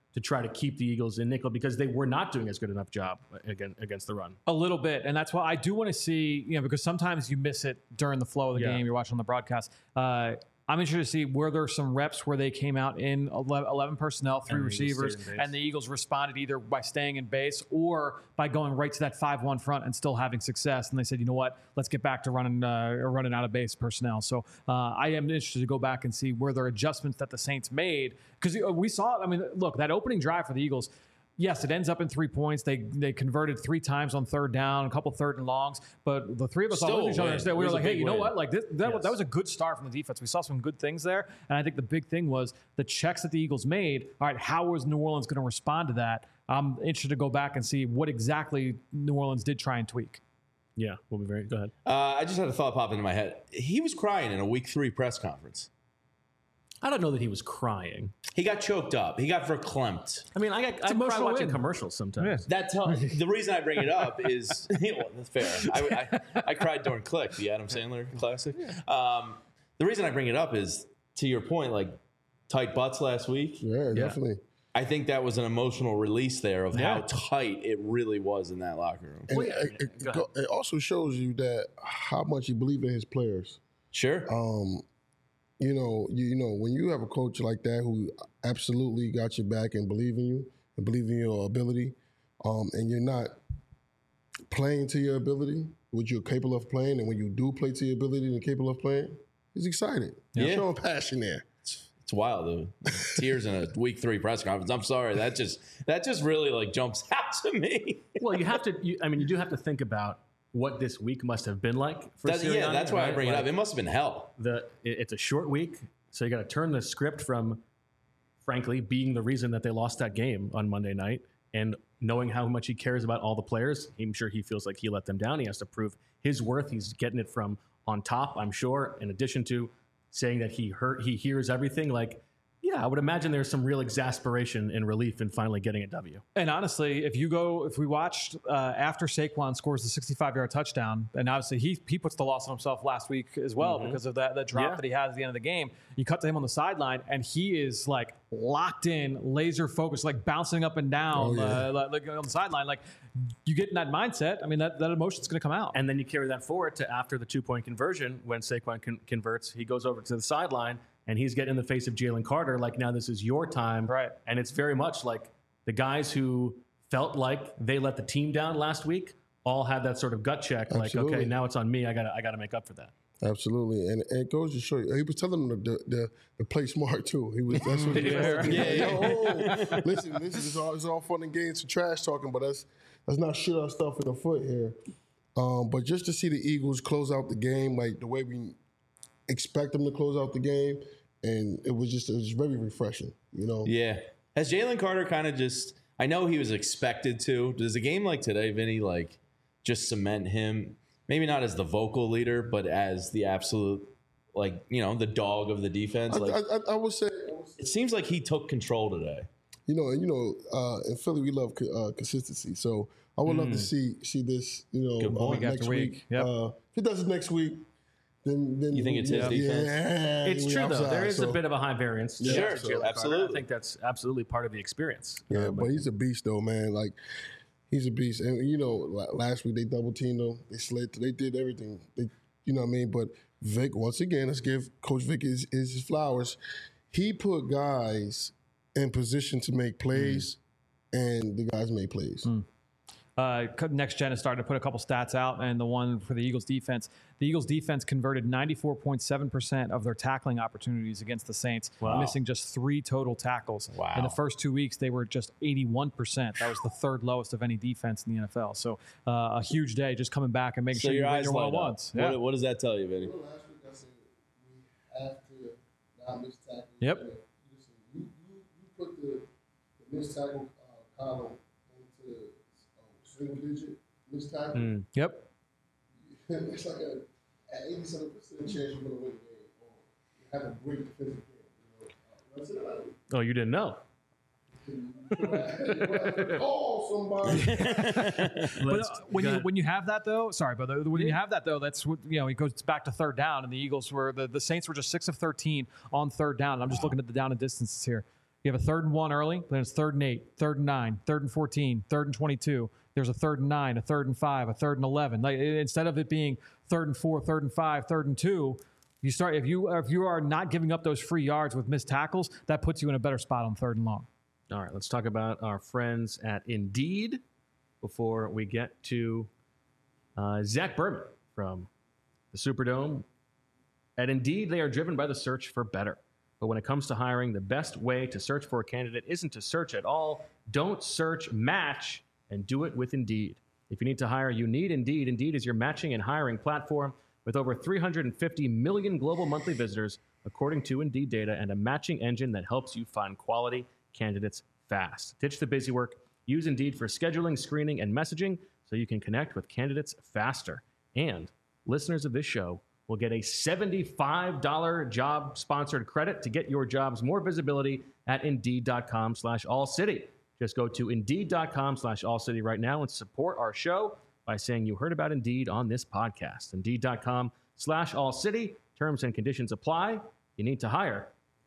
to try to keep the Eagles in nickel because they were not doing as good enough job against, against the run. A little bit. And that's why I do want to see, you know, because sometimes you miss it during the flow of the Yeah. game. You're watching on the broadcast. Uh, I'm interested to see were there some reps where they came out in eleven personnel, three And the Eagles receivers, stayed in base. and the Eagles responded either by staying in base or by going right to that five one front and still having success. And they said, you know what, let's get back to running uh, or running out of base personnel. So uh, I am interested to go back and see were there adjustments that the Saints made because we saw. I mean, look, that opening drive for the Eagles. Yes, it ends up in three points. They they converted three times on third down, a couple third and longs. But the three of us all Still looked at each other a and win. said, It we were was a like, hey, big you know win. what? Like this, that, Yes. that was a good start from the defense. We saw some good things there. And I think the big thing was the checks that the Eagles made. All right, how was New Orleans going to respond to that? I'm interested to go back and see what exactly New Orleans did try and tweak. Yeah, we'll be very go ahead. Uh, I just had a thought pop into my head. He was crying in a week three press conference. I don't know that he was crying. He got choked up. He got verklempt. I mean, I got I cry emotional watching win. commercials sometimes. That tell, the reason I bring it up is well, that's fair. I, I, I cried during Click, the Adam Sandler classic. Um, the reason I bring it up is to your point, like tight butts last week. Yeah, definitely. I think that was an emotional release there of Yeah. how tight it really was in that locker room. And Well, yeah, it, it- go ahead. it also shows you that how much he believes in his players. Sure. Um, you know, you, you know, when you have a coach like that who absolutely got your back and believe in you and believe in your ability, um, and you're not playing to your ability, what you're capable of playing, and when you do play to your ability and capable of playing, he's excited. Yeah. He's showing passion there. It's wild, though. Tears in a week three press conference. I'm sorry. That just that just really like jumps out to me. Well, you have to. You, I mean, you do have to think about what this week must have been like for That- yeah, Sirianni, that's why I right? bring it Like, up. It must have been hell. the it- it's a short week, so you got to turn the script from, frankly, being the reason that they lost that game on Monday night, and knowing how much he cares about all the players. I'm sure he feels like he let them down. He has to prove his worth. He's getting it from on top, I'm sure. In addition to saying that he hurt, he hears everything. Like, yeah, I would imagine there's some real exasperation and relief in finally getting a W. And honestly, if you go, if we watched uh, after Saquon scores the sixty-five-yard touchdown, and obviously he he puts the loss on himself last week as well because of that that drop Yeah. that he had at the end of the game. You cut to him on the sideline, and he is like locked in, laser focused, like bouncing up and down, Oh, yeah. uh, like, like on the sideline. Like you get in that mindset. I mean, that that emotion's going to come out. And then you carry that forward to after the two-point conversion when Saquon con- converts, he goes over to the sideline and he's getting in the face of Jalen Carter like, now this is your time. Right. And it's very much like the guys who felt like they let the team down last week all had that sort of gut check. Like, Absolutely. okay, now it's on me. I gotta I gotta make up for that. Absolutely, and, and it goes to show you. He was telling them to, to, to play smart too. He was. That's what he was. Yeah. Yeah, yeah. Yo, listen, listen. It's all, it's all fun and games for trash talking, but that's that's not shit our stuff in the foot here. Um, but just to see the Eagles close out the game like the way we expect them to close out the game, and it was just it was very refreshing. You know. Yeah. Has Jalen Carter kind of just, I know he was expected to. Does a game like today, Vinny, like just cement him, maybe not as the vocal leader, but as the absolute, like, you know, the dog of the defense? I, Like, I, I, I would say. I would say it seems like he took control today. You know, and you know, uh, in Philly we love co- uh, consistency. So I would love to see see this. You know, Good point. uh, Week after next week. week. Yep. Uh, if he does it next week, then then You think it's his yeah, defense? Yeah, It's we true though. outside, There is so- a bit of a high variance. to Sure, Jalen Carter. absolutely. I think that's absolutely part of the experience. Yeah, Uh, but he's a beast though, man. Like he's a beast. And you know, la- last week they double teamed him. They slid. They did everything. They, you know what I mean. But Vic, once again, let's give Coach Vic his, his, his flowers. He put guys in position to make plays, and the guys made plays. Uh, Next Gen is starting to put a couple stats out, and the one for the Eagles defense. The Eagles defense converted ninety-four point seven percent of their tackling opportunities against the Saints, Wow. missing just three total tackles. Wow. In the first two weeks, they were just eighty-one percent. That was the third lowest of any defense in the N F L. So uh, a huge day just coming back and making So sure you your win eyes your light up. one-on-ones. What, Yeah. what does that tell you, Vinny? Last week I said we have to not miss tackles. Yep. Listen, you, you, you put the, the missed tackle uh, column into uh, single digit missed tackle. Mm. Yep. It's like a at eighty-seven percent chance you're going to win the game or you have a great defensive game. You know, uh, that's it. Oh, you didn't know. Call somebody. But Let's- uh, when go you ahead. when you have that though, sorry, but the- when you have that though, that's what you know. It goes back to third down, and the Eagles were the, the Saints were just six of thirteen on third down. And I'm just looking at the down and distances here. You have a third and one early, then it's third and eight, third and nine, third and fourteen, third and twenty-two. There's a third and nine, a third and five, a third and eleven. Like, instead of it being third and four, third and five, third and two, you start if you if you are not giving up those free yards with missed tackles, that puts you in a better spot on third and long. All right, let's talk about our friends at Indeed before we get to uh, Zach Berman from the Superdome. At Indeed, they are driven by the search for better. But when it comes to hiring, the best way to search for a candidate isn't to search at all. Don't search, match, and do it with Indeed. If you need to hire, you need Indeed. Indeed is your matching and hiring platform with over three hundred fifty million global monthly visitors, according to Indeed data, and a matching engine that helps you find quality candidates fast. Ditch the busy work. Use Indeed for scheduling, screening, and messaging so you can connect with candidates faster. And listeners of this show will get a seventy-five dollars job sponsored credit to get your jobs more visibility at Indeed.com slash All City. Just go to Indeed.com slash All City right now and support our show by saying you heard about Indeed on this podcast. Indeed.com slash All City. Terms and conditions apply. You need to hire.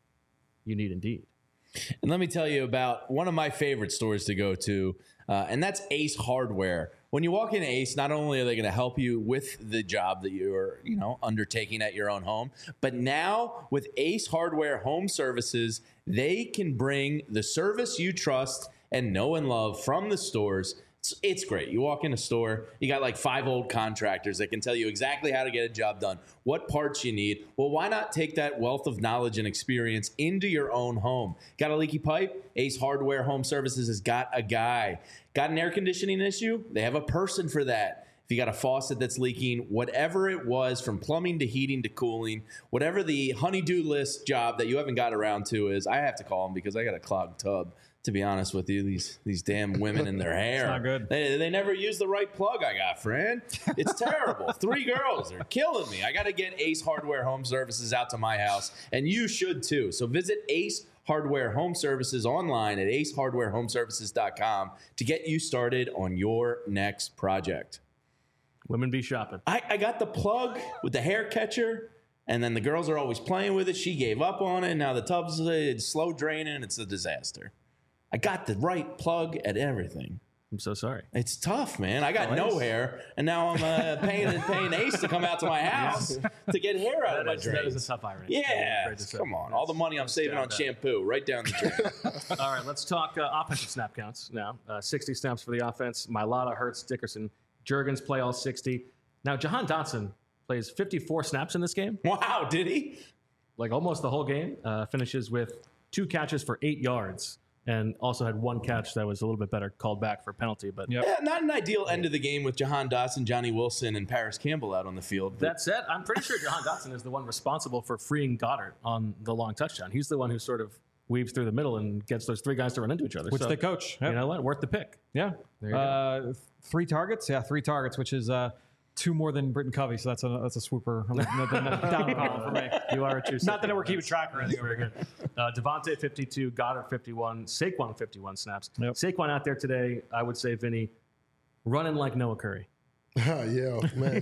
You need Indeed. And let me tell you about one of my favorite stores to go to, uh, and that's Ace Hardware. When you walk into Ace, not only are they going to help you with the job that you're, you know, undertaking at your own home, but now with Ace Hardware Home Services, they can bring the service you trust and know and love from the stores. It's, it's great. You walk in a store, you got like five old contractors that can tell you exactly how to get a job done, what parts you need. Well, why not take that wealth of knowledge and experience into your own home? Got a leaky pipe? Ace Hardware Home Services has got a guy. Got an air conditioning issue? They have a person for that. If you got a faucet that's leaking, whatever it was, from plumbing to heating to cooling, whatever the honey-do list job that you haven't got around to is, I have to call them because I got a clogged tub. To be honest with you, these these damn women in their hair. It's not good. They, they never use the right plug I got, friend. It's terrible. Three girls are killing me. I got to get Ace Hardware Home Services out to my house, and you should too. So visit Ace Hardware Home Services online at ace hardware home services dot com to get you started on your next project. Women be shopping. I, I got the plug with the hair catcher, and then the girls are always playing with it. She gave up on it. Now the tub's uh, slow draining. It's a disaster. I got the right plug at everything. I'm so sorry. It's tough, man. I got Oh, no it's- hair, and now I'm uh, paying paying Ace to come out to my house to get hair out of my That is, that is drains. a tough irony. Yeah, Afraid to say. come on. All the money I'm saving on down bad. shampoo, right down the drain. All right, let's talk uh, offensive snap counts now. Uh, sixty snaps for the offense. Mailata, Hurts, Dickerson, Juergens play all sixty. Now, Jahan Dotson plays fifty-four snaps in this game, Wow, did he? like almost the whole game. Uh, finishes with two catches for eight yards, and also had one catch that was a little bit better called back for penalty. But Yep. Yeah, not an ideal end of the game with Jahan Dotson, Johnny Wilson, and Paris Campbell out on the field. But that said, I'm pretty sure Jahan Dotson is the one responsible for freeing Goddard on the long touchdown. He's the one who sort of weaves through the middle and gets those three guys to run into each other. Which So, they coach. Yep. You know what? Worth the pick. Yeah. There you go. Uh, three targets. Yeah, three targets, which is uh, two more than Britton Covey. So that's a that's a swooper. I'm a down column for me. You are a true. Not that we're keeping track or anything. Very good. Uh, Devontae fifty-two, Goddard fifty-one, Saquon fifty-one snaps. Yep. Saquon out there today, I would say, Vinny, running like Noah Curry. yeah, man.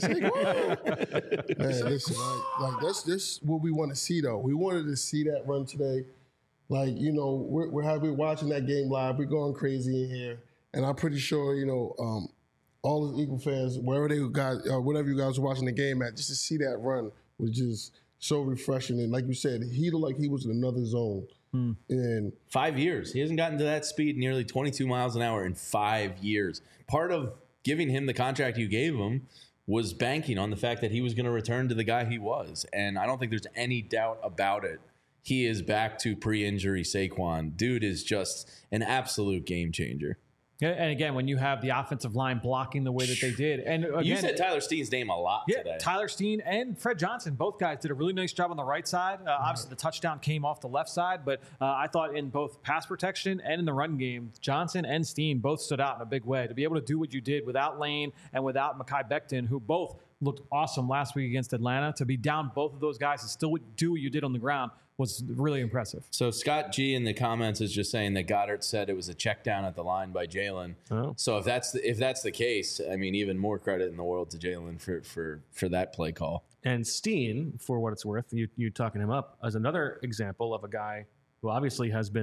Saquon. man, listen, like, like that's this what we want to see though. We wanted to see that run today. Like, you know, we're we're happy watching that game live. We're going crazy in here, and I'm pretty sure, you know, um, all the Eagle fans, wherever they got, uh, whatever you guys were watching the game at, just to see that run was just so refreshing. And like you said, he looked like he was in another zone. Hmm. And Five years. He hasn't gotten to that speed, nearly twenty-two miles an hour in five years. Part of giving him the contract you gave him was banking on the fact that he was going to return to the guy he was. And I don't think there's any doubt about it. He is back to pre-injury Saquon. Dude is just an absolute game changer. Yeah, and again, when you have the offensive line blocking the way that they did, and again, You said Tyler Steen's name a lot yeah, today. Tyler Steen and Fred Johnson, both guys did a really nice job on the right side. Uh, obviously, the touchdown came off the left side, but uh, I thought in both pass protection and in the run game, Johnson and Steen both stood out in a big way. To be able to do what you did without Lane and without Mekhi Becton, who both looked awesome last week against Atlanta, to be down both of those guys and still do what you did on the ground was really impressive. So Scott G in the comments is just saying that Goddard said it was a check down at the line by Jalen. Oh. So if that's the, if that's the case, I mean, even more credit in the world to Jalen for for for that play call. And Steen, for what it's worth, you you talking him up as another example of a guy who obviously has been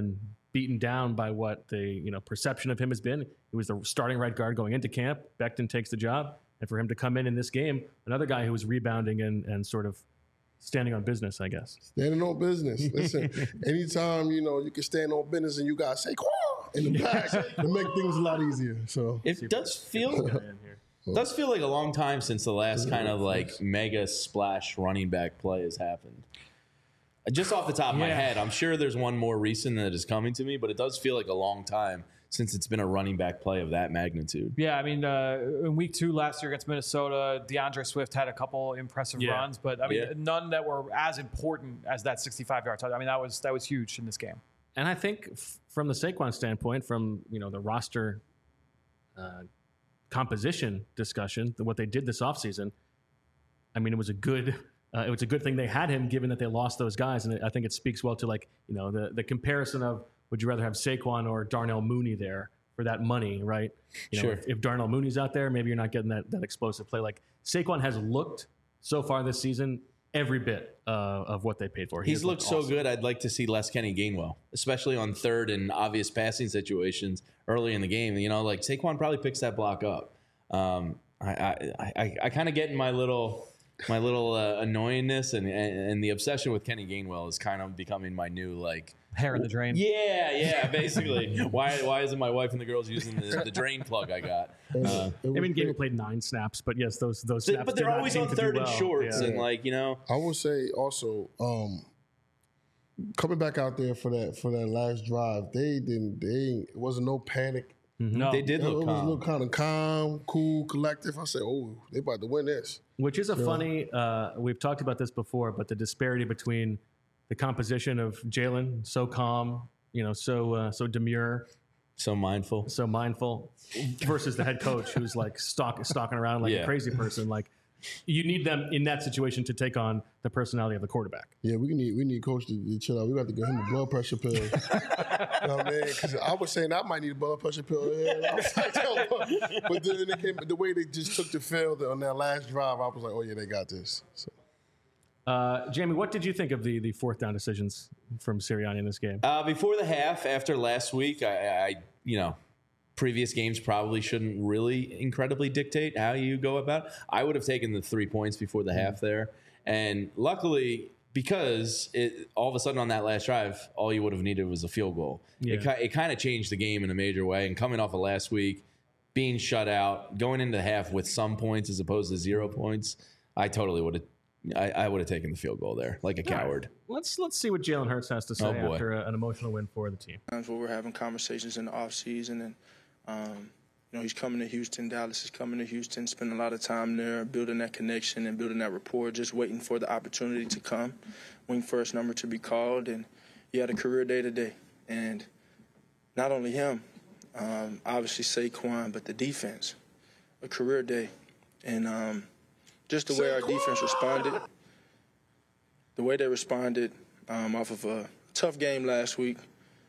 beaten down by what the you know perception of him has been. He was the starting right guard going into camp. Becton takes the job, and for him to come in in this game, another guy who was rebounding and and sort of standing on business, I guess. Standing on business. Listen, anytime you know you can stand on business and you got Saquon in the back, to make things a lot easier. So it does feel. It does feel like a long time since the last kind of like mega splash running back play has happened. Just off the top of my Yeah. head, I'm sure there's one more recent that is coming to me, but it does feel like a long time since it's been a running back play of that magnitude. Yeah, I mean, uh, in week two last year against Minnesota, DeAndre Swift had a couple impressive Yeah. runs, but I mean, Yeah. none that were as important as that sixty-five yard touchdown. I mean, that was that was huge in this game. And I think f- from the Saquon standpoint, from you know the roster uh, composition discussion, what they did this offseason, I mean, it was a good uh, it was a good thing they had him, given that they lost those guys, and I think it speaks well to like you know the the comparison of would you rather have Saquon or Darnell Mooney there for that money, right? You know, Sure. if, if Darnell Mooney's out there, maybe you're not getting that that explosive play. Like Saquon has looked so far this season every bit uh, of what they paid for. He He's has looked so awesome. good, I'd like to see less Kenny Gainwell, especially on third and obvious passing situations early in the game. You know, like Saquon probably picks that block up. Um, I I, I, I kind of get in my little my little uh, annoyingness and, and and the obsession with Kenny Gainwell is kind of becoming my new like Hair in the drain. yeah yeah basically why why isn't my wife and the girls using the, the drain plug I got? Uh, it I mean, was Gamer played nine snaps, but yes, those those they- snaps. but did they're not always seem on to do third and well. shorts Yeah. and like you know I will say also, um, coming back out there for that for that last drive, they didn't. They it wasn't no panic. No, they did It, look it was a calm. little kind of calm, cool, collective. I said, "Oh, they about to win this." Which is a funny, uh, we've talked about this before, but the disparity between the composition of Jalen, so calm, you know, so uh, so demure, so mindful. so mindful, versus the head coach who's like stalk, stalking around like Yeah. a crazy person. Like, you need them in that situation to take on the personality of the quarterback. Yeah, we need we need coach to, to chill out. We got to give him a blood pressure pill. You know what I mean? Because I was saying I might need a blood pressure pill. Yeah, I was like, yo, but then it came, the way they just took the field on that last drive, I was like, oh yeah, they got this. So. Uh, Jamie, what did you think of the the fourth down decisions from Sirianni in this game? Uh, before the half, after last week, I, I, you know, previous games probably shouldn't really incredibly dictate how you go about it. I would have taken the three points before the half there. And luckily, because it all of a sudden on that last drive, all you would have needed was a field goal. Yeah. It, ki- it kind of changed the game in a major way. And coming off of last week, being shut out, going into the half with some points as opposed to zero points, I totally would have. I, I would have taken the field goal there, like a coward. Let's let's see what Jalen Hurts has to say Oh, boy. after a, an emotional win for the team. Times where we're having conversations in the off season, and um, you know he's coming to Houston, Dallas is coming to Houston, spending a lot of time there, building that connection and building that rapport, just waiting for the opportunity to come, wing first number to be called, and he had a career day today, and not only him, um, obviously Saquon, but the defense, a career day, and um, just the way our defense responded, the way they responded um, off of a tough game last week.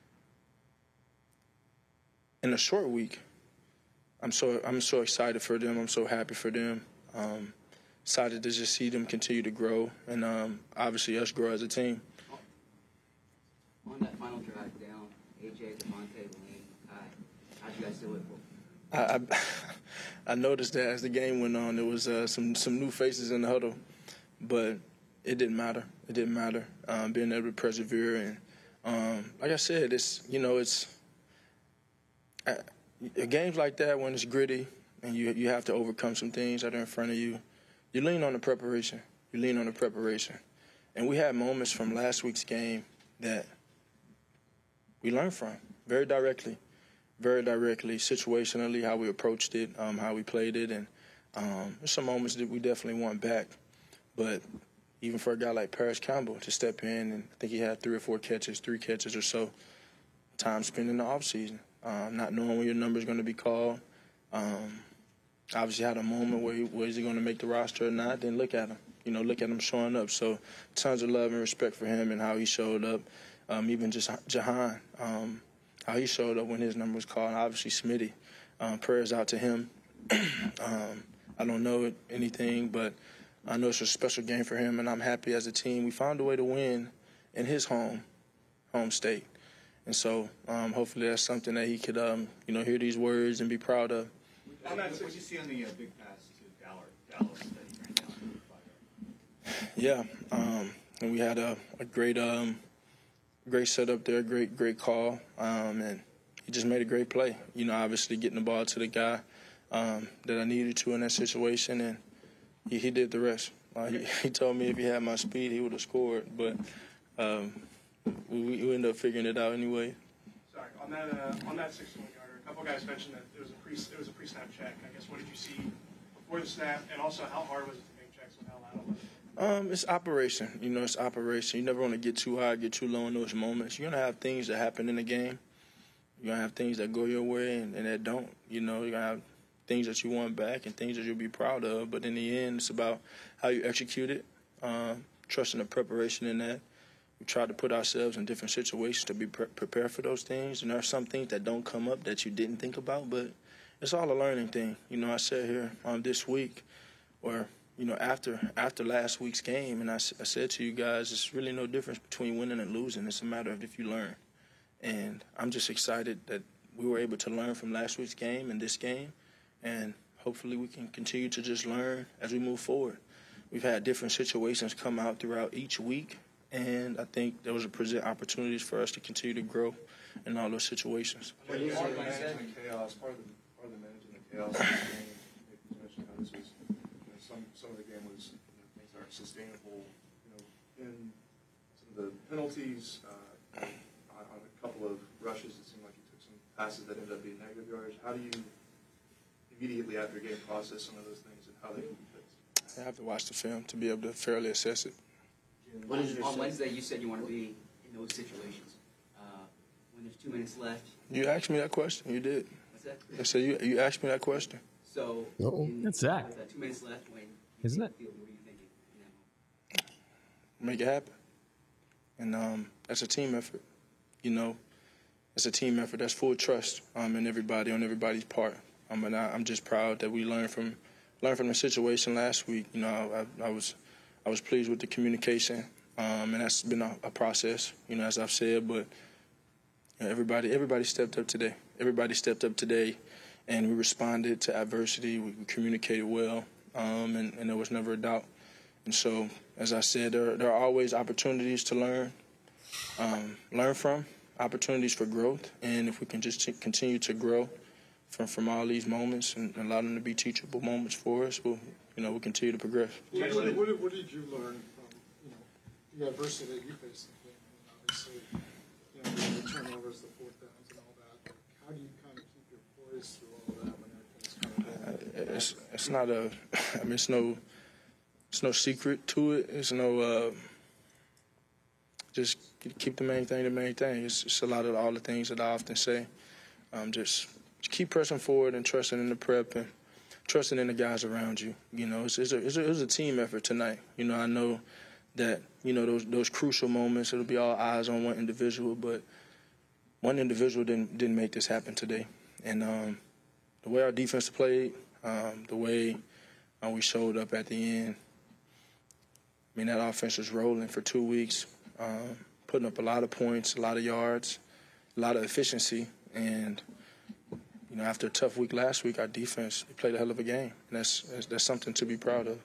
In a short week, I'm so I'm so excited for them. I'm so happy for them. Um, excited to just see them continue to grow, and um, obviously us grow as a team. On that final drive down, A J, Devontae, Lane, Kai, how'd you guys do it? I, I, I noticed that as the game went on, there was uh, some some new faces in the huddle, but it didn't matter. It didn't matter. Um, being able to persevere, and um, like I said, it's you know it's uh, games like that when it's gritty and you you have to overcome some things that are in front of you. You lean on the preparation. You lean on the preparation, and we had moments from last week's game that we learned from very directly. Very directly, situationally, how we approached it, um, how we played it, and um, there's some moments that we definitely want back. But even for a guy like Paris Campbell to step in, and I think he had three or four catches, three catches or so, time spent in the offseason, um, not knowing when your number is going to be called. Um, obviously had a moment where he, was he going to make the roster or not, then look at him. You know, look at him showing up. So tons of love and respect for him and how he showed up. Um, even just Jahan. Um, how he showed up when his number was called, and obviously Smitty. Um, prayers out to him. um, I don't know anything, but I know it's a special game for him, and I'm happy as a team. We found a way to win in his home, home state. And so um, hopefully that's something that he could, um, you know, hear these words and be proud of. What did you see on the uh, big pass to Dallas, Dallas that he ran down? Yeah, um, and we had a, a great, um, great setup there, great, great call, um, and he just made a great play. You know, obviously getting the ball to the guy um, that I needed to in that situation, and he, he did the rest. Uh, he, he told me if he had my speed, he would have scored, but um, we, we ended up figuring it out anyway. Sorry, on that uh, on that sixty-one yarder, a couple guys mentioned that it was a pre it was a pre-snap check. I guess what did you see before the snap, and also how hard was it to make checks and how loud was it? Um, it's operation. You know, it's operation. You never want to get too high, get too low in those moments. You're gonna have things that happen in the game. You're gonna have things that go your way and, and that don't. You know, you're gonna have things that you want back and things that you'll be proud of. But in the end, it's about how you execute it, um, trusting the preparation in that. We try to put ourselves in different situations to be pre- prepared for those things. And there are some things that don't come up that you didn't think about, but it's all a learning thing. You know, I sat here um, this week where, you know, after after last week's game, and I, I said to you guys, it's really no difference between winning and losing. It's a matter of if you learn. And I'm just excited that we were able to learn from last week's game and this game, and hopefully we can continue to just learn as we move forward. We've had different situations come out throughout each week, and I think those will present opportunities for us to continue to grow in all those situations. Part of the managing the chaos, part of the, part of the managing the chaos of the game, you mentioned how this was, you know, some, some of the game was, you know, things aren't sustainable, you know, in some of the penalties, uh, on, on a couple of rushes, it seemed like he took some passes that ended up being negative yards. How do you immediately after a game process some of those things and how they can be fixed? I have to watch the film to be able to fairly assess it. What is on Wednesday, you said you want to be in those situations. Uh, when there's two minutes left. You asked me that question. You did. What's that? I said you. You asked me that question. So, in, That's Zach. with, uh, two minutes left. When Isn't it? Field, what are you thinking in that moment? Make it happen. And um, that's a team effort. You know, it's a team effort. That's full trust um, in everybody on everybody's part. Um, and I, I'm just proud that we learned from learned from the situation last week. You know, I, I was I was pleased with the communication, um, and that's been a, a process. You know, as I've said, but you know, everybody everybody stepped up today. Everybody stepped up today, and we responded to adversity. We, we communicated well, um, and, and there was never a doubt. And so, as I said, there, there are always opportunities to learn, um, learn from, opportunities for growth, and if we can just t- continue to grow from, from all these moments and allow them to be teachable moments for us, we'll, you know, we'll continue to progress. What, what, what, did, what did you learn from, you know, the adversity that you faced in the game? And obviously, you know, the turnovers, the fourth downs, and all that. Like, how do you kind of keep your poise through all of that when everything's kind of going? It's it's not a, I mean, it's no, it's no secret to it. It's no, uh, just keep the main thing the main thing. It's, it's a lot of all the things that I often say. Um, just, just keep pressing forward and trusting in the prep and trusting in the guys around you. You know, it's, it's, a, it's, a, it was a team effort tonight. You know, I know that, you know, those those crucial moments, it'll be all eyes on one individual, but one individual didn't didn't make this happen today. And um, the way our defense played, um, the way uh, we showed up at the end, I mean, that offense was rolling for two weeks, um, putting up a lot of points, a lot of yards, a lot of efficiency. And, you know, after a tough week last week, our defense played a hell of a game. And that's that's, that's something to be proud of.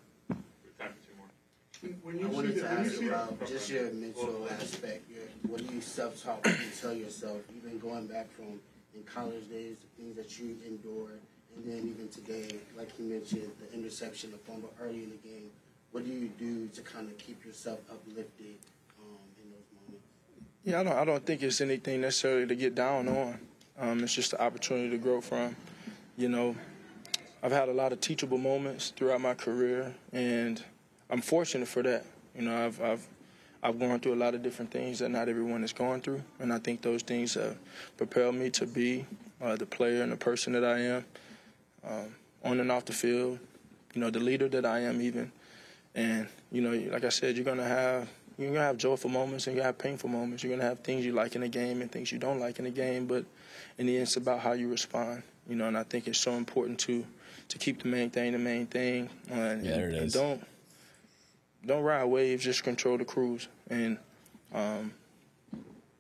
When you I wanted see to the, when you ask see about just your mental aspect. Your, what do you self-talk when you tell yourself, even going back from in college days, the things that you endured, and then even today, like you mentioned, the interception, the fumble early in the game. What do you do to kind of keep yourself uplifted um, in those moments? Yeah, I don't, I don't think it's anything necessarily to get down on. Um, it's just an opportunity to grow from. You know, I've had a lot of teachable moments throughout my career, and I'm fortunate for that. You know, I've I've I've gone through a lot of different things that not everyone is going through, and I think those things have propelled me to be uh, the player and the person that I am, um, on and off the field. You know, the leader that I am even. And, you know, like I said, you're going to have you're gonna have joyful moments and you're going to have painful moments. You're going to have things you like in the game and things you don't like in the game. But in the end, it's about how you respond. You know, and I think it's so important to to keep the main thing the main thing. Uh, and, yeah, there it and is. Don't, don't ride waves, just control the cruise. And um,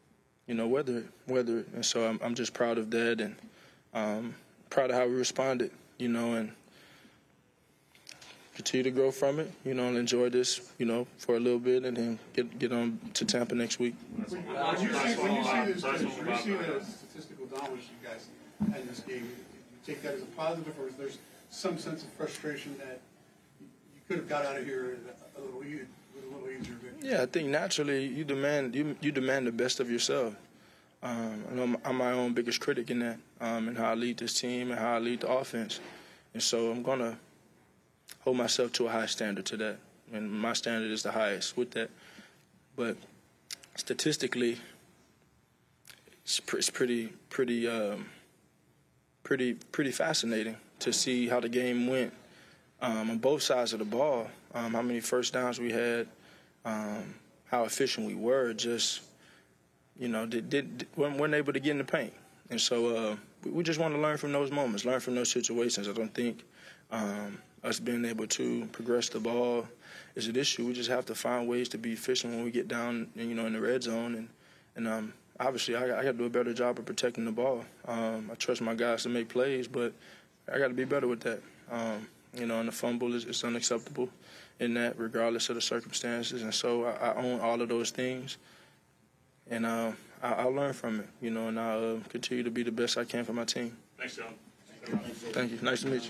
you know, weather it, weather it. And so I'm, I'm just proud of that and um, proud of how we responded, you know, and continue to grow from it, you know, and enjoy this, you know, for a little bit and then get get on to Tampa next week. When you see, when you see, this, when you see the statistical dominance you guys had in this game, do you take that as a positive, or is there some sense of frustration that you could have got out of here a little, e- with a little easier victory? Yeah, I think naturally you demand you, you demand the best of yourself. Um, I know I'm my own biggest critic in that, um, and how I lead this team and how I lead the offense. And so I'm going to hold myself to a high standard to that. And my standard is the highest with that. But statistically, it's, pr- it's pretty, pretty, um, pretty, pretty fascinating to see how the game went um, on both sides of the ball. Um, how many first downs we had, um, how efficient we were. Just, you know, did, did, weren't, weren't able to get in the paint. And so uh, we, we just want to learn from those moments, learn from those situations. I don't think um, us being able to progress the ball is an issue. We just have to find ways to be efficient when we get down, you know, in the red zone. And, and um, obviously, I, I got to do a better job of protecting the ball. Um, I trust my guys to make plays, but I got to be better with that. Um, you know, and the fumble is, is unacceptable in that, regardless of the circumstances. And so I, I own all of those things. And uh, I, I'll learn from it, you know, and I'll uh, continue to be the best I can for my team. Thanks, John. Thank you. Nice to meet you.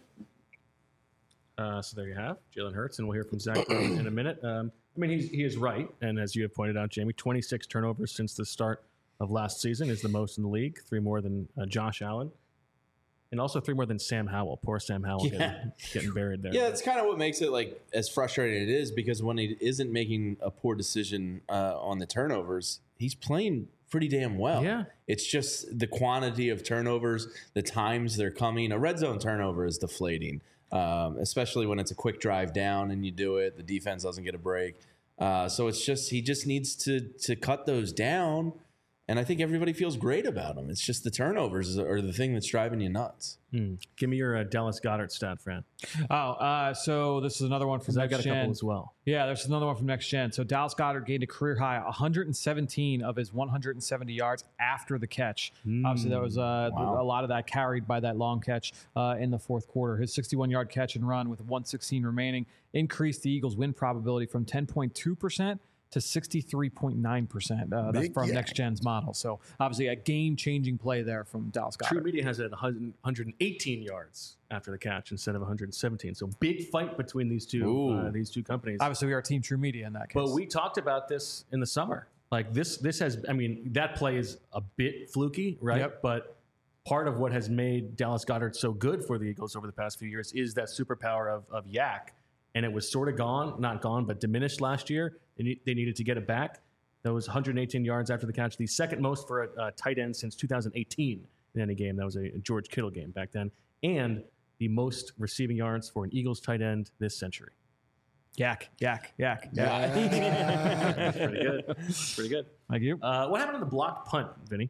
Uh, so there you have Jalen Hurts, and we'll hear from Zach Brown in a minute. Um, I mean, he's, he is right, and as you have pointed out, Jamie, twenty-six turnovers since the start of last season is the most in the league, three more than uh, Josh Allen, and also three more than Sam Howell. Poor Sam Howell Yeah. getting, getting buried there. Yeah, it's kind of what makes it like as frustrating it is, because when he isn't making a poor decision uh, on the turnovers, he's playing pretty damn well. Yeah. It's just the quantity of turnovers, the times they're coming. A red zone turnover is deflating, um, especially when it's a quick drive down and you do it. The defense doesn't get a break. Uh, so it's just he just needs to to cut those down. And I think everybody feels great about him. It's just the turnovers are the thing that's driving you nuts. Hmm. Give me your uh, Dallas Goedert stat, Fran. Oh, uh, so this is another one from Because I Next got a Gen. couple as well. Yeah, there's another one from Next Gen. So Dallas Goedert gained a career high one hundred seventeen of his one hundred seventy yards after the catch. Mm. Obviously, that was uh, Wow. a lot of that carried by that long catch uh, in the fourth quarter. His sixty-one-yard catch and run with one sixteen remaining increased the Eagles' win probability from ten point two percent to sixty-three point nine percent. Uh, that's Big from yak. Next Gen's model. So obviously a game-changing play there from Dallas Goedert. True Media has it at one hundred eighteen yards after the catch instead of one hundred seventeen. So big fight between these two uh, these two companies. Obviously, we are Team True Media in that case. But we talked about this in the summer. Like this, this has. I mean, that play is a bit fluky, right? Yep. But part of what has made Dallas Goedert so good for the Eagles over the past few years is that superpower of of Yak, and it was sort of gone, not gone, but diminished last year. They, need, they needed to get it back. That was one hundred eighteen yards after the catch, the second most for a, a tight end since two thousand eighteen in any game. That was a George Kittle game back then, and the most receiving yards for an Eagles tight end this century. yak, yak, yak, yak. That's pretty good. That's pretty good. Thank you. Uh, what happened on the blocked punt, Vinny?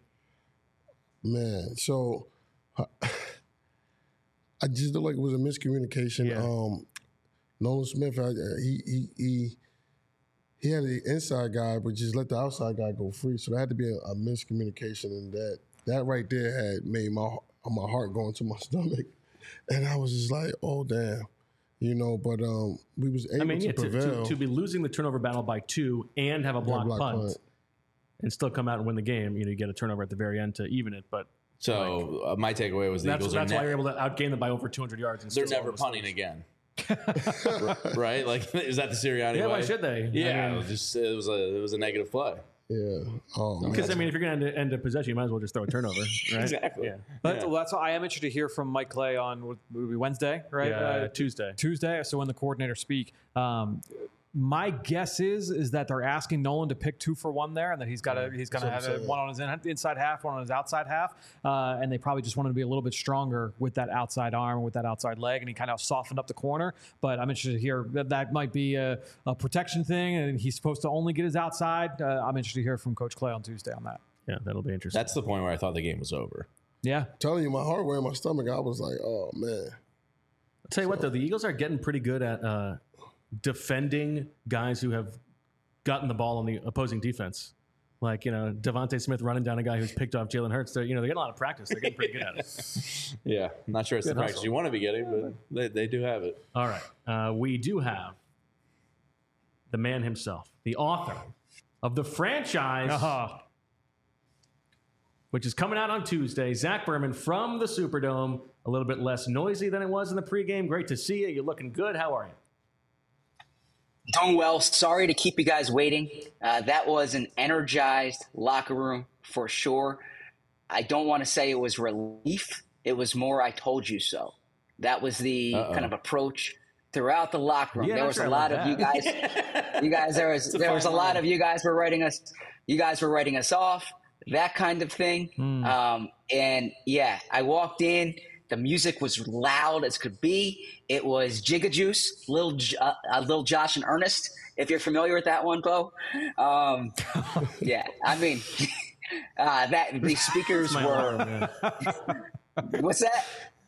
Man, so uh, I just feel like it was a miscommunication. Yeah. Um, Nolan Smith, I, he he he he had the inside guy, but just let the outside guy go free. So there had to be a, a miscommunication, and that that right there had made my my heart go into my stomach, and I was just like, oh damn, you know. But um, we was able I mean, to yeah, to, prevail. to, to be losing the turnover battle by two and have a blocked block punt, punt. and still come out and win the game. You know, you get a turnover at the very end to even it, but So uh, my takeaway was the that's, Eagles that's are why ne- you're able to outgain them by over two hundred yards. And they're still never almost punting lose. again. right? Like, is that the Sirianni Yeah, way? why should they? Yeah, I mean- it was just it was a it was a negative play. Yeah. Oh, Because I man. mean, if you're going to end a possession, you might as well just throw a turnover, right? Exactly. Yeah. But Yeah. well, that's why I am interested to hear from Mike Clay on what would be Wednesday, right? Yeah, Uh, Tuesday. Tuesday. So when the coordinators speak, um, my guess is is that they're asking Nolan to pick two for one there, and that he's got to he's going to That's have what I'm a, one on his in, inside half, one on his outside half, uh, and they probably just wanted to be a little bit stronger with that outside arm, with that outside leg, and he kind of softened up the corner. But I'm interested to hear that that might be a, a protection thing, and he's supposed to only get his outside. Uh, I'm interested to hear from Coach Clay on Tuesday on that. Yeah, that'll be interesting. That's the point where I thought the game was over. Yeah, telling you, my heart went in my stomach. I was like, oh man. I'll tell you what, though, the Eagles are getting pretty good at uh, defending guys who have gotten the ball on the opposing defense. Like, you know, Devontae Smith running down a guy who's picked off Jalen Hurts. They're, you know, they're getting a lot of practice. They're getting pretty good at it. Yeah, I'm not sure it's Good the practice hustle. you want to be getting, but they, they do have it. All right. Uh, we do have the man himself, the author of the franchise, Uh-huh. which is coming out on Tuesday. Zach Berman from the Superdome. A little bit less noisy than it was in the pregame. Great to see you. You're looking good. How are you? Doing well. Sorry to keep you guys waiting. Uh, that was an energized locker room for sure. I don't want to say it was relief. It was more I told you so. That was the Uh-oh. kind of approach throughout the locker room. Yeah, there not was sure a I lot like of you guys. that. You guys, there was It's a there was a fine lot line. of you guys were writing us. You guys were writing us off. That kind of thing. Hmm. Um, and yeah, I walked in. The music was loud as could be. It was Jigga Juice, Lil, J- uh, uh, Lil Josh and Ernest. If you're familiar with that one, Bo. Um, yeah, I mean, uh, that the speakers My were. alarm, yeah. What's that?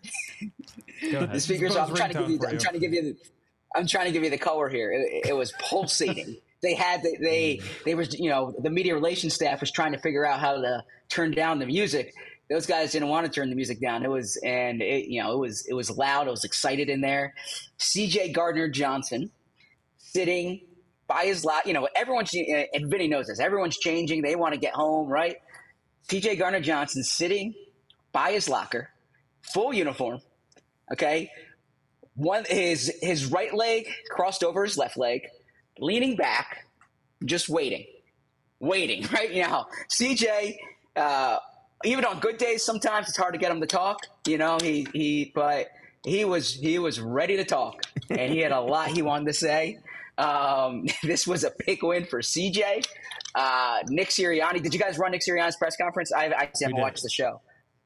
Go ahead. The speakers. I'm Bo's trying to give ringtone you. for I'm you. trying to give you. The, I'm trying to give you the color here. It, it was pulsating. They had. They, they. They was. You know, the media relations staff was trying to figure out how to turn down the music. Those guys didn't want to turn the music down. It was, and it, you know, it was. It was loud. It was excited in there. C J Gardner Johnson sitting by his lot. You know, everyone's. And Vinny knows this. Everyone's changing. They want to get home, right? C J Gardner Johnson sitting by his locker, full uniform. Okay, one his his right leg crossed over his left leg, leaning back, just waiting, waiting. Right now, C J. Uh, even on good days, sometimes it's hard to get him to talk. You know, he he, but he was he was ready to talk, and he had a lot he wanted to say. Um, this was a big win for C J. Uh, Nick Sirianni. Did you guys run Nick Sirianni's press conference? I, I haven't did. watched the show.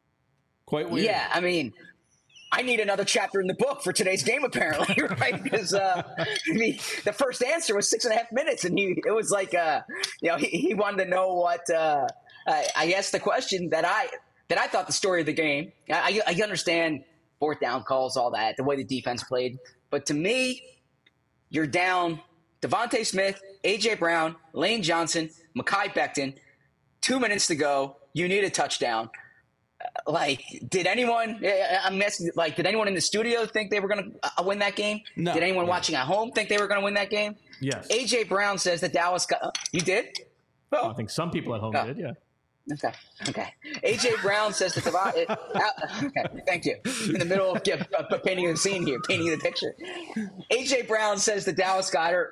Quite weird. Yeah, I mean, I need another chapter in the book for today's game, apparently, right? Because uh, I mean, the first answer was six and a half minutes, and he it was like, uh, you know, he, he wanted to know what. Uh, I, I asked the question that I that I thought the story of the game. I, I understand fourth down calls, all that, the way the defense played, but to me, you're down Devontae Smith, A J Brown, Lane Johnson, Mekhi Becton. Two minutes to go. You need a touchdown. Like, did anyone? I'm asking. Like, did anyone in the studio think they were going to uh, win that game? No. Did anyone No. watching at home think they were going to win that game? Yes. A J Brown says that Dallas got. Uh, you did? Oh, I think some people at home Oh. did, yeah. okay. Okay. A J Brown says that Devontae. Uh, okay. Thank you. In the middle of yeah, uh, painting the scene here, painting the picture. A J Brown says that Dallas Goedert,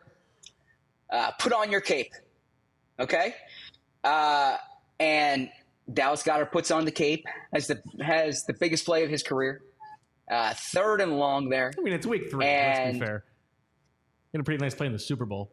uh, put on your cape. Okay. Uh, and Dallas Goedert puts on the cape, has the has the biggest play of his career, uh, third and long there. I mean, it's week three. Let's be And- fair. He had a pretty nice play in the Super Bowl.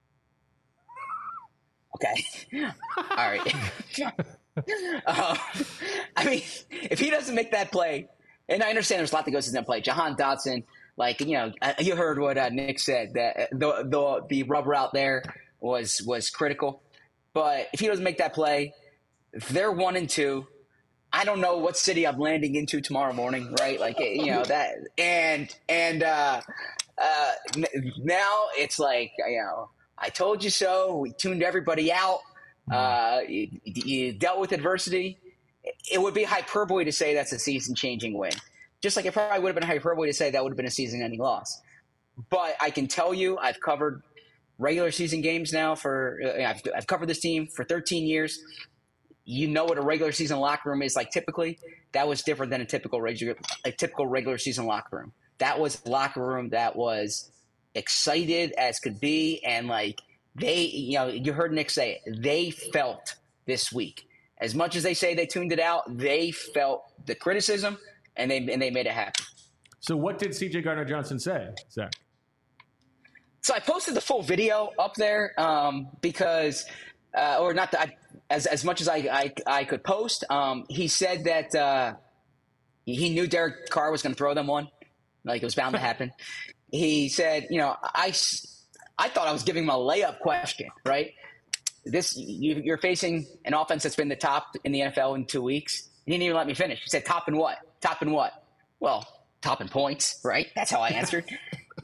Okay, all right. uh, I mean, if he doesn't make that play, and I understand there's a lot that goes into that play. Jahan Dotson, like you know, uh, you heard what uh, Nick said that the the the rubber out there was was critical. But if he doesn't make that play, they're one and two. I don't know what city I'm landing into tomorrow morning, right? Like, you know, that, and, and, uh, uh, n- now it's like, you know, I told you so. We tuned everybody out. Uh, you, you dealt with adversity. It would be hyperbole to say that's a season changing win. Just like it probably would have been hyperbole to say that would have been a season ending loss. But I can tell you, I've covered regular season games now for, uh, I've, I've covered this team for thirteen years. You know what a regular season locker room is like typically. That was different than a typical regular a typical regular season locker room. That was a locker room that was excited as could be, and like they, you know, you heard Nick say it. They felt this week. As much as they say they tuned it out, they felt the criticism, and they and they made it happen. So what did C J Gardner Johnson say, Zach? So I posted the full video up there um, because, uh, or not the, I, as as much as I I, I could post. Um, he said that uh, he knew Derek Carr was going to throw them one, like it was bound to happen. He said, you know, I, I thought I was giving him a layup question, right? This you, you're facing an offense that's been the top in the N F L in two weeks. He didn't even let me finish. He said, "Top in what? Top in what? Well, top in points, right?" That's how I answered.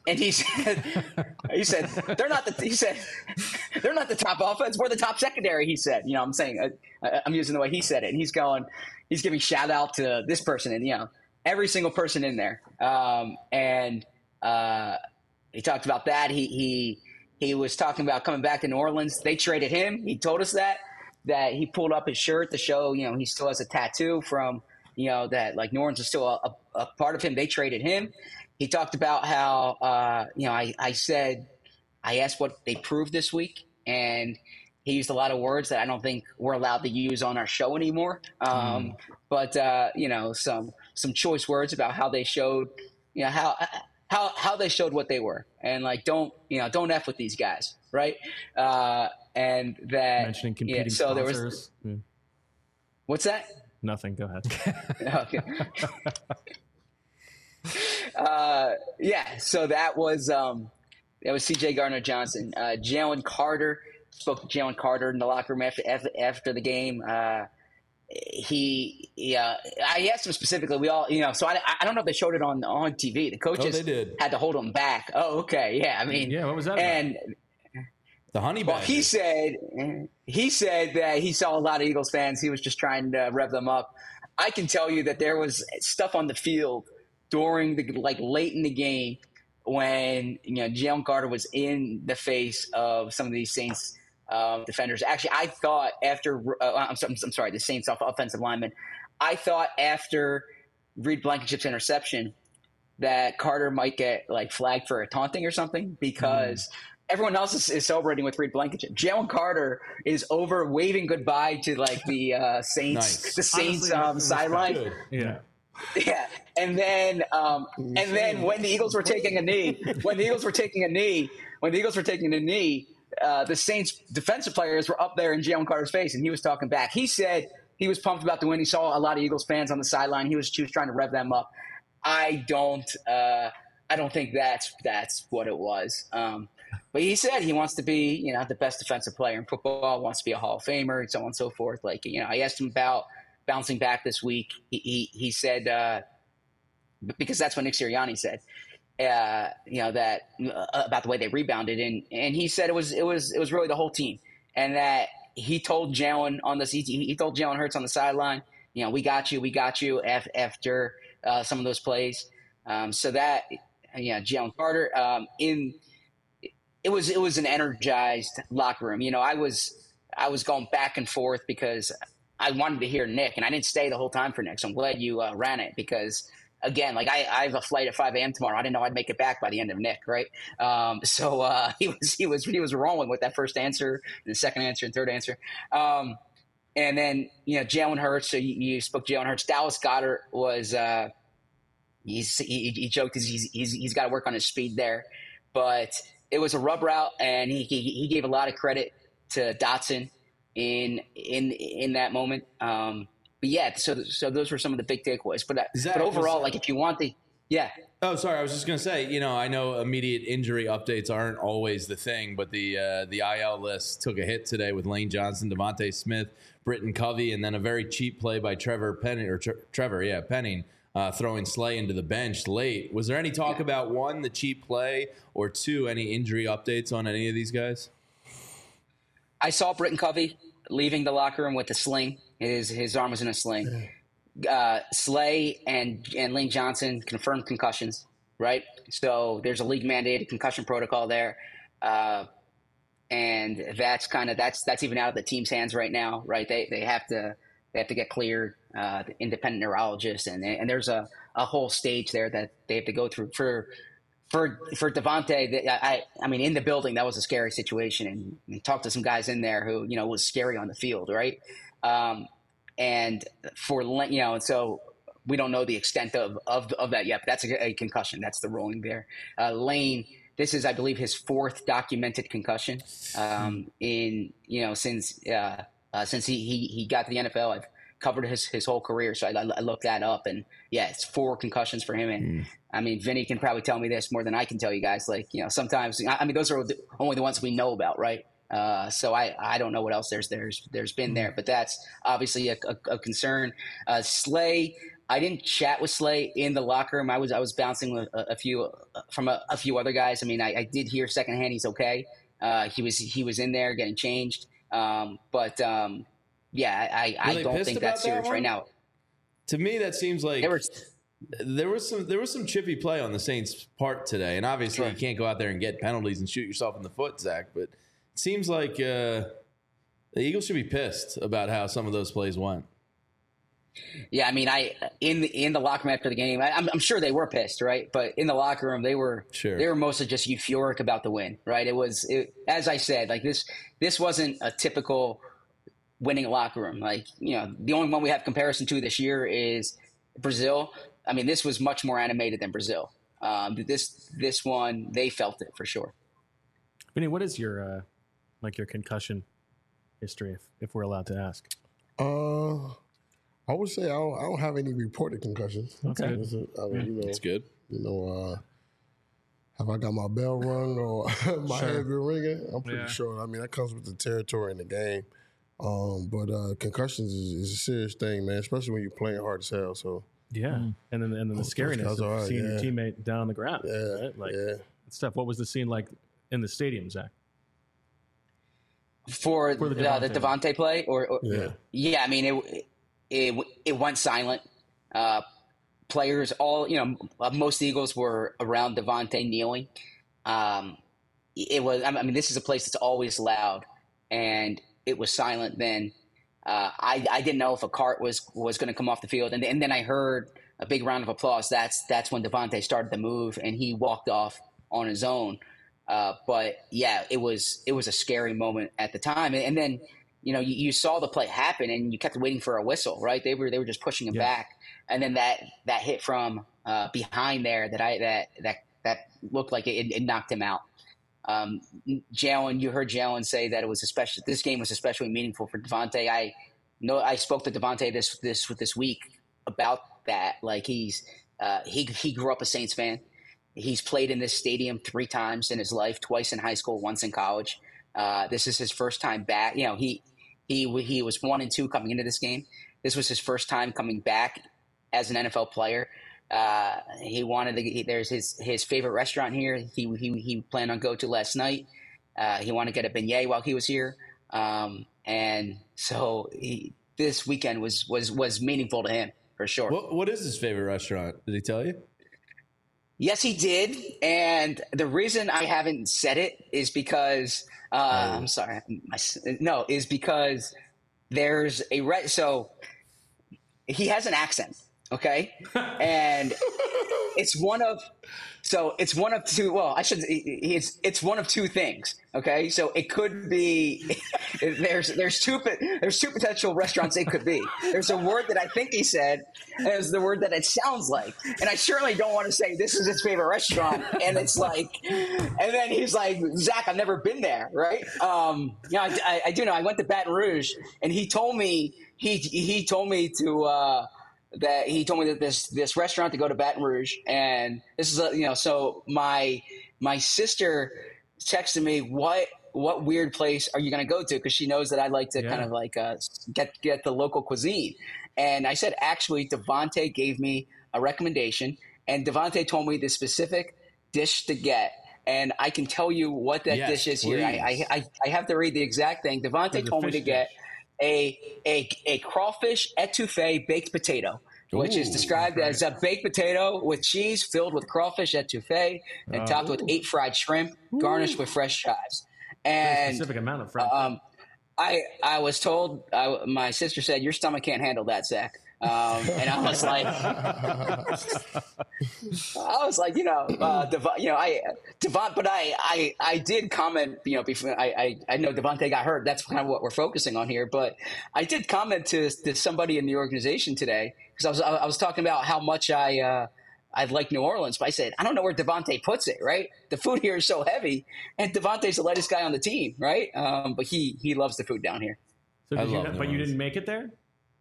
and he said, he said they're not the he said they're not the top offense. We're the top secondary. He said, you know, I'm saying I, I'm using the way he said it, and he's going, he's giving shout out to this person, and you know, every single person in there. Um, and uh, he talked about that. He he he was talking about coming back to New Orleans. They traded him. He told us that that he pulled up his shirt to show, you know, he still has a tattoo from, you know, that like New Orleans is still a, a, a part of him. They traded him. He talked about how, uh, you know, I, I said, I asked what they proved this week, and he used a lot of words that I don't think we're allowed to use on our show anymore. Um, mm. But, uh, you know, some some choice words about how they showed, you know, how how how they showed what they were. And, like, don't, you know, don't F with these guys, right? Uh, and that – Mentioning competing yeah, so sponsors. There was, yeah. What's that? Nothing. Go ahead. Okay. Uh, yeah, so that was um, that was C J Gardner-Johnson. Uh, Jalen Carter spoke to Jalen Carter in the locker room after after, after the game. Uh, he, yeah, I asked him specifically. We all, you know, so I, I don't know if they showed it on on T V. The coaches oh, they did. had to hold him back. Oh, okay, yeah. I mean, yeah, what was that? And about? The honey well, badger. he said he said that he saw a lot of Eagles fans. He was just trying to rev them up. I can tell you that there was stuff on the field during the like late in the game when you know Jalen Carter was in the face of some of these Saints um, defenders. Actually, I thought after uh, I'm, sorry, I'm sorry, the Saints offensive lineman. I thought after Reed Blankenship's interception that Carter might get like flagged for a taunting or something because mm. everyone else is, is celebrating with Reed Blankenship. Jalen Carter is over waving goodbye to like the uh, Saints, nice. the Saints Honestly, um, sideline. Yeah. Yeah, and then um, and then when the Eagles were taking a knee, when the Eagles were taking a knee, when the Eagles were taking a knee, uh, the Saints defensive players were up there in Jalen Carter's face, and he was talking back. He said he was pumped about the win. He saw a lot of Eagles fans on the sideline. He was, he was trying to rev them up. I don't, uh, I don't think that's that's what it was. Um, but he said he wants to be, you know, the best defensive player in football. Wants to be a Hall of Famer, and so on and so forth. Like, you know, I asked him about bouncing back this week. He he, he said uh, because that's what Nick Sirianni said. Uh, you know that uh, about the way they rebounded, and and he said it was it was it was really the whole team, and that he told Jalen on this. He, he told Jalen Hurts on the sideline, you know, we got you, we got you. Af- after uh, some of those plays, um, so that yeah, Jalen Carter um, in it was it was an energized locker room. You know, I was I was going back and forth because I wanted to hear Nick, and I didn't stay the whole time for Nick. So I'm glad you uh, ran it because, again, like I, I have a flight at five a.m. tomorrow. I didn't know I'd make it back by the end of Nick, right? Um, so uh, he was he was he was rolling with that first answer, the second answer, and third answer. Um, and then you know Jalen Hurts. So you, you spoke Jalen Hurts. Dallas Goedert was uh, he's he, he joked he's he's he's got to work on his speed there, but it was a rub route, and he he, he gave a lot of credit to Dotson in in in that moment. Um, but yeah, so so those were some of the big takeaways. But Zach, but overall, was, like if you want the yeah. Oh, sorry. I was just gonna say, you know, I know immediate injury updates aren't always the thing, but the uh, the I L list took a hit today with Lane Johnson, Devontae Smith, Britton Covey, and then a very cheap play by Trevor Penning or Tre- Trevor, yeah, Penning. Uh, throwing Slay into the bench late. Was there any talk yeah. about, one, the cheap play, or two, any injury updates on any of these guys? I saw Britton Covey leaving the locker room with a sling. His his arm was in a sling. Uh, Slay and, and Lane Johnson confirmed concussions, right? So there's a league-mandated concussion protocol there. Uh, and that's kind of that's that's even out of the team's hands right now, right? They they have to they have to get cleared. Uh, the independent neurologist, and and there's a, a whole stage there that they have to go through for for for Devontae. I I mean, in the building, that was a scary situation, and, and talked to some guys in there who you know was scary on the field, right? Um, and for you know, and so we don't know the extent of of, of that yet. But that's a, a concussion. That's the ruling there. Uh, Lane, this is, I believe, his fourth documented concussion um, in you know since uh, uh, since he, he he got to the N F L. I've covered his, his whole career. So I, I looked that up, and yeah, it's four concussions for him. And mm. I mean, Vinny can probably tell me this more than I can tell you guys. Like, you know, sometimes, I mean, those are the, only the ones we know about. Right. Uh, so I, I don't know what else there's, there's, there's been there, but that's obviously a, a, a concern. Uh, Slay, I didn't chat with Slay in the locker room. I was I was bouncing with a, a few uh, from a, a few other guys. I mean, I, I did hear secondhand he's okay. Uh, he was he was in there getting changed. Um, but um, yeah, I, I, I don't think that's serious that right now. To me, that seems like there was, there was some there was some chippy play on the Saints' part today, and obviously sure. you can't go out there and get penalties and shoot yourself in the foot, Zach. But it seems like uh, the Eagles should be pissed about how some of those plays went. Yeah, I mean, I in the in the locker room after the game, I, I'm, I'm sure they were pissed, right? But in the locker room, they were sure. they were mostly just euphoric about the win, right? It was, it, as I said, like this this wasn't a typical winning locker room. Like, you know, the only one we have comparison to this year is Brazil. I mean, this was much more animated than Brazil. Um, this this one, they felt it for sure. Vinny, what is your uh, like your concussion history, if, if we're allowed to ask? Uh. I would say I don't, I don't have any reported concussions. Okay, I mean, you know, that's good. You know, uh, have I got my bell rung or my sure. head been ringing? I'm pretty yeah. sure. I mean, that comes with the territory in the game. Um, but uh, concussions is, is a serious thing, man, especially when you're playing hard as hell. So yeah, mm. and then and then the oh, scariness of right, seeing yeah. your teammate down on the ground. Yeah, right? like yeah. stuff. What was the scene like in the stadium, Zach? For, For the, Devontae. Uh, the Devontae play, or, or yeah, yeah. I mean it. It, it went silent. Uh, players, all, you know, most Eagles were around Devontae kneeling. Um, it was, I mean, this is a place that's always loud, and it was silent then. Uh, I, I didn't know if a cart was, was going to come off the field. And, and then I heard a big round of applause. That's, that's when Devontae started to move, and he walked off on his own. Uh, but yeah, it was, it was a scary moment at the time. And, and then, you know, you, you saw the play happen, and you kept waiting for a whistle, right? They were they were just pushing him yeah. back, and then that that hit from uh, behind there that I that that that looked like it, it knocked him out. Um, Jalen, you heard Jalen say that it was especially this game was especially meaningful for Devontae. I know I spoke to Devontae this this this week about that. Like he's uh, he he grew up a Saints fan. He's played in this stadium three times in his life, twice in high school, once in college. Uh, this is his first time back. You know, he. He he was one and two coming into this game. This was his first time coming back as an N F L player. Uh, he wanted to. He, there's his his favorite restaurant here. He he he planned on go to last night. Uh, he wanted to get a beignet while he was here, um, and so he, this weekend was was was meaningful to him for sure. What what is his favorite restaurant? Did he tell you? Yes, he did. And the reason I haven't said it is because uh, oh. I'm sorry. My, no, is because there's a re- so he has an accent, okay, and it's one of so it's one of two. Well, I should. It's it's one of two things. Okay, so it could be there's there's two there's two potential restaurants it could be. There's a word that I think he said, and there's the word that it sounds like. And I certainly don't want to say this is his favorite restaurant, and it's like, and then he's like, Zach, I've never been there, right? Um, you know, I, I, I do know. I went to Baton Rouge, and he told me he he told me to. Uh, that he told me that this this restaurant to go to Baton Rouge, and this is a, you know so my my sister texted me what what weird place are you going to go to, because she knows that I like to yeah. kind of like uh, get get the local cuisine, and I said actually Devontae gave me a recommendation, and Devontae told me the specific dish to get, and I can tell you what that yes, dish is please. here. I, I I have to read the exact thing. Devontae told me to get. Dish. A, a a crawfish etouffee baked potato, which Ooh, is described right. as a baked potato with cheese filled with crawfish etouffee and uh, topped ooh. with eight fried shrimp, garnished ooh. with fresh chives. And a specific amount of fried um, I I was told I, my sister said your stomach can't handle that, Zach. Um, and I was like, I was like, you know, uh, Dev- you know, I Devon, but I, I, I did comment, you know, before I, I, I know Devontae got hurt. That's kind of what we're focusing on here. But I did comment to, to somebody in the organization today because I was, I was talking about how much I, uh, I like New Orleans, but I said, I don't know where Devontae puts it, right? The food here is so heavy, and Devontae's the lightest guy on the team, right? Um, but he, he loves the food down here. So did you know, but you didn't make it there?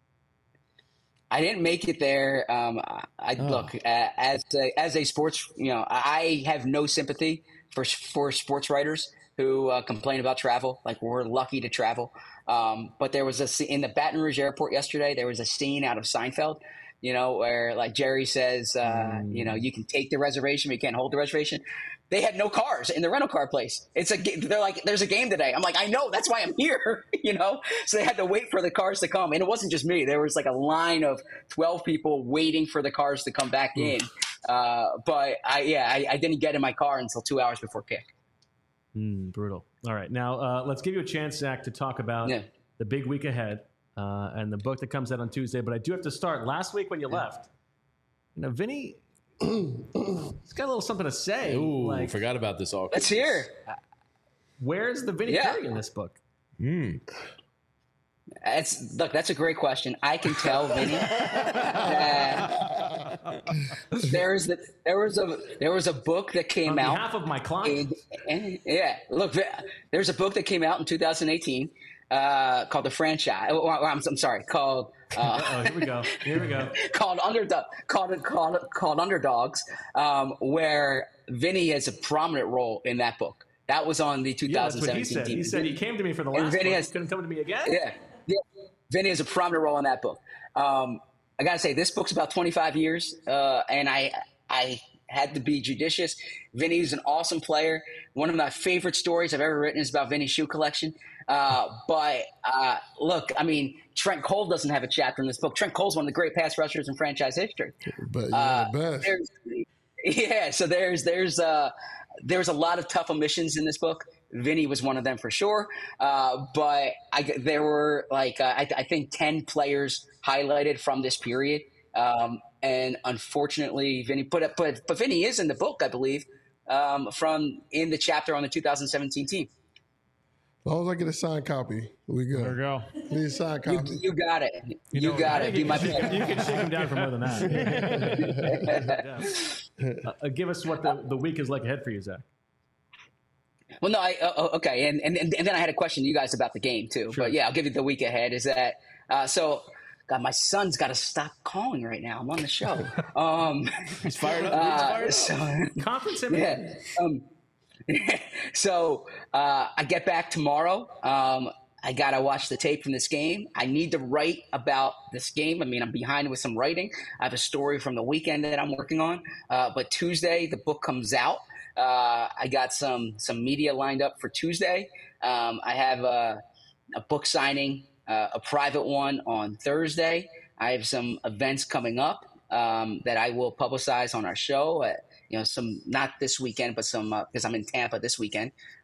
I didn't make it there. Um, I oh. look uh, as a, as a sports, you know, I have no sympathy for for sports writers who uh, complain about travel. Like, we're lucky to travel. Um, but there was a in the Baton Rouge airport yesterday. There was a scene out of Seinfeld you know, where like Jerry says, uh, mm. you know, you can take the reservation, but you can't hold the reservation. They had no cars in the rental car place. It's a, they're like, there's a game today. I'm like, I know, that's why I'm here, you know? So they had to wait for the cars to come. And it wasn't just me. There was like a line of twelve people waiting for the cars to come back mm. in. Uh, but I, yeah, I, I didn't get in my car until two hours before kick. Mm, brutal. All right. Now, uh, let's give you a chance, Zach, to talk about yeah. the big week ahead uh, and the book that comes out on Tuesday. But I do have to start. Last week when you yeah. left, you know, Vinny, he's got a little something to say. Ooh, like, forgot about this all. Let's hear. Where's the Vinny yeah. Curry in this book? Hmm. It's, look, that's a great question. I can tell Vinny that there's the, there was a there was a book that came on out. On behalf of my client. And, and, yeah, look, there's a book that came out in two thousand eighteen uh, called The Franchise. Oh, I'm, I'm sorry, called. Uh, oh, here we go. Here we go. called Underdog. Called called called Underdogs, um, where Vinny has a prominent role in that book. That was on the two thousand seventeen yeah, that's what he said. team. He said he came to me for the last Vinny book. Has, he couldn't come to me again? Yeah. yeah. Vinny has a prominent role in that book. Um, I got to say, this book's about twenty-five years, uh, and I I had to be judicious. Vinny's an awesome player. One of my favorite stories I've ever written is about Vinny's shoe collection. Uh, but uh, look, I mean, Trent Cole doesn't have a chapter in this book. Trent Cole's one of the great pass rushers in franchise history. But you're uh, the best. Yeah, so there's there's uh, there's a lot of tough omissions in this book. Vinny was one of them for sure. Uh, but I, there were like, uh, I, I think ten players highlighted from this period. Um, and unfortunately, Vinny, but, but, but Vinny is in the book, I believe, um, from in the chapter on the two thousand seventeen team. As long as I get a signed copy, we good. There we go. Need a signed copy. You, you got it. You, you know, got it. You, my can, you can shake him down for more than that. uh, give us what the, the week is like ahead for you, Zach. Well, no, I uh, okay, and, and and then I had a question to you guys about the game too. Sure. But yeah, I'll give you the week ahead. Is that uh, so? God, my son's got to stop calling right now. I'm on the show. Um, He's fired up. He's fired uh, so, up. Conference him. Yeah. Um, so uh, I get back tomorrow. Um, I gotta watch the tape from this game. I need to write about this game. I mean, I'm behind with some writing. I have a story from the weekend that I'm working on. Uh, but Tuesday, the book comes out. Uh, I got some some media lined up for Tuesday. Um, I have a, a book signing, uh, a private one on Thursday. I have some events coming up um, that I will publicize on our show. Uh, you know, some not this weekend, but some because uh, I'm in Tampa this weekend.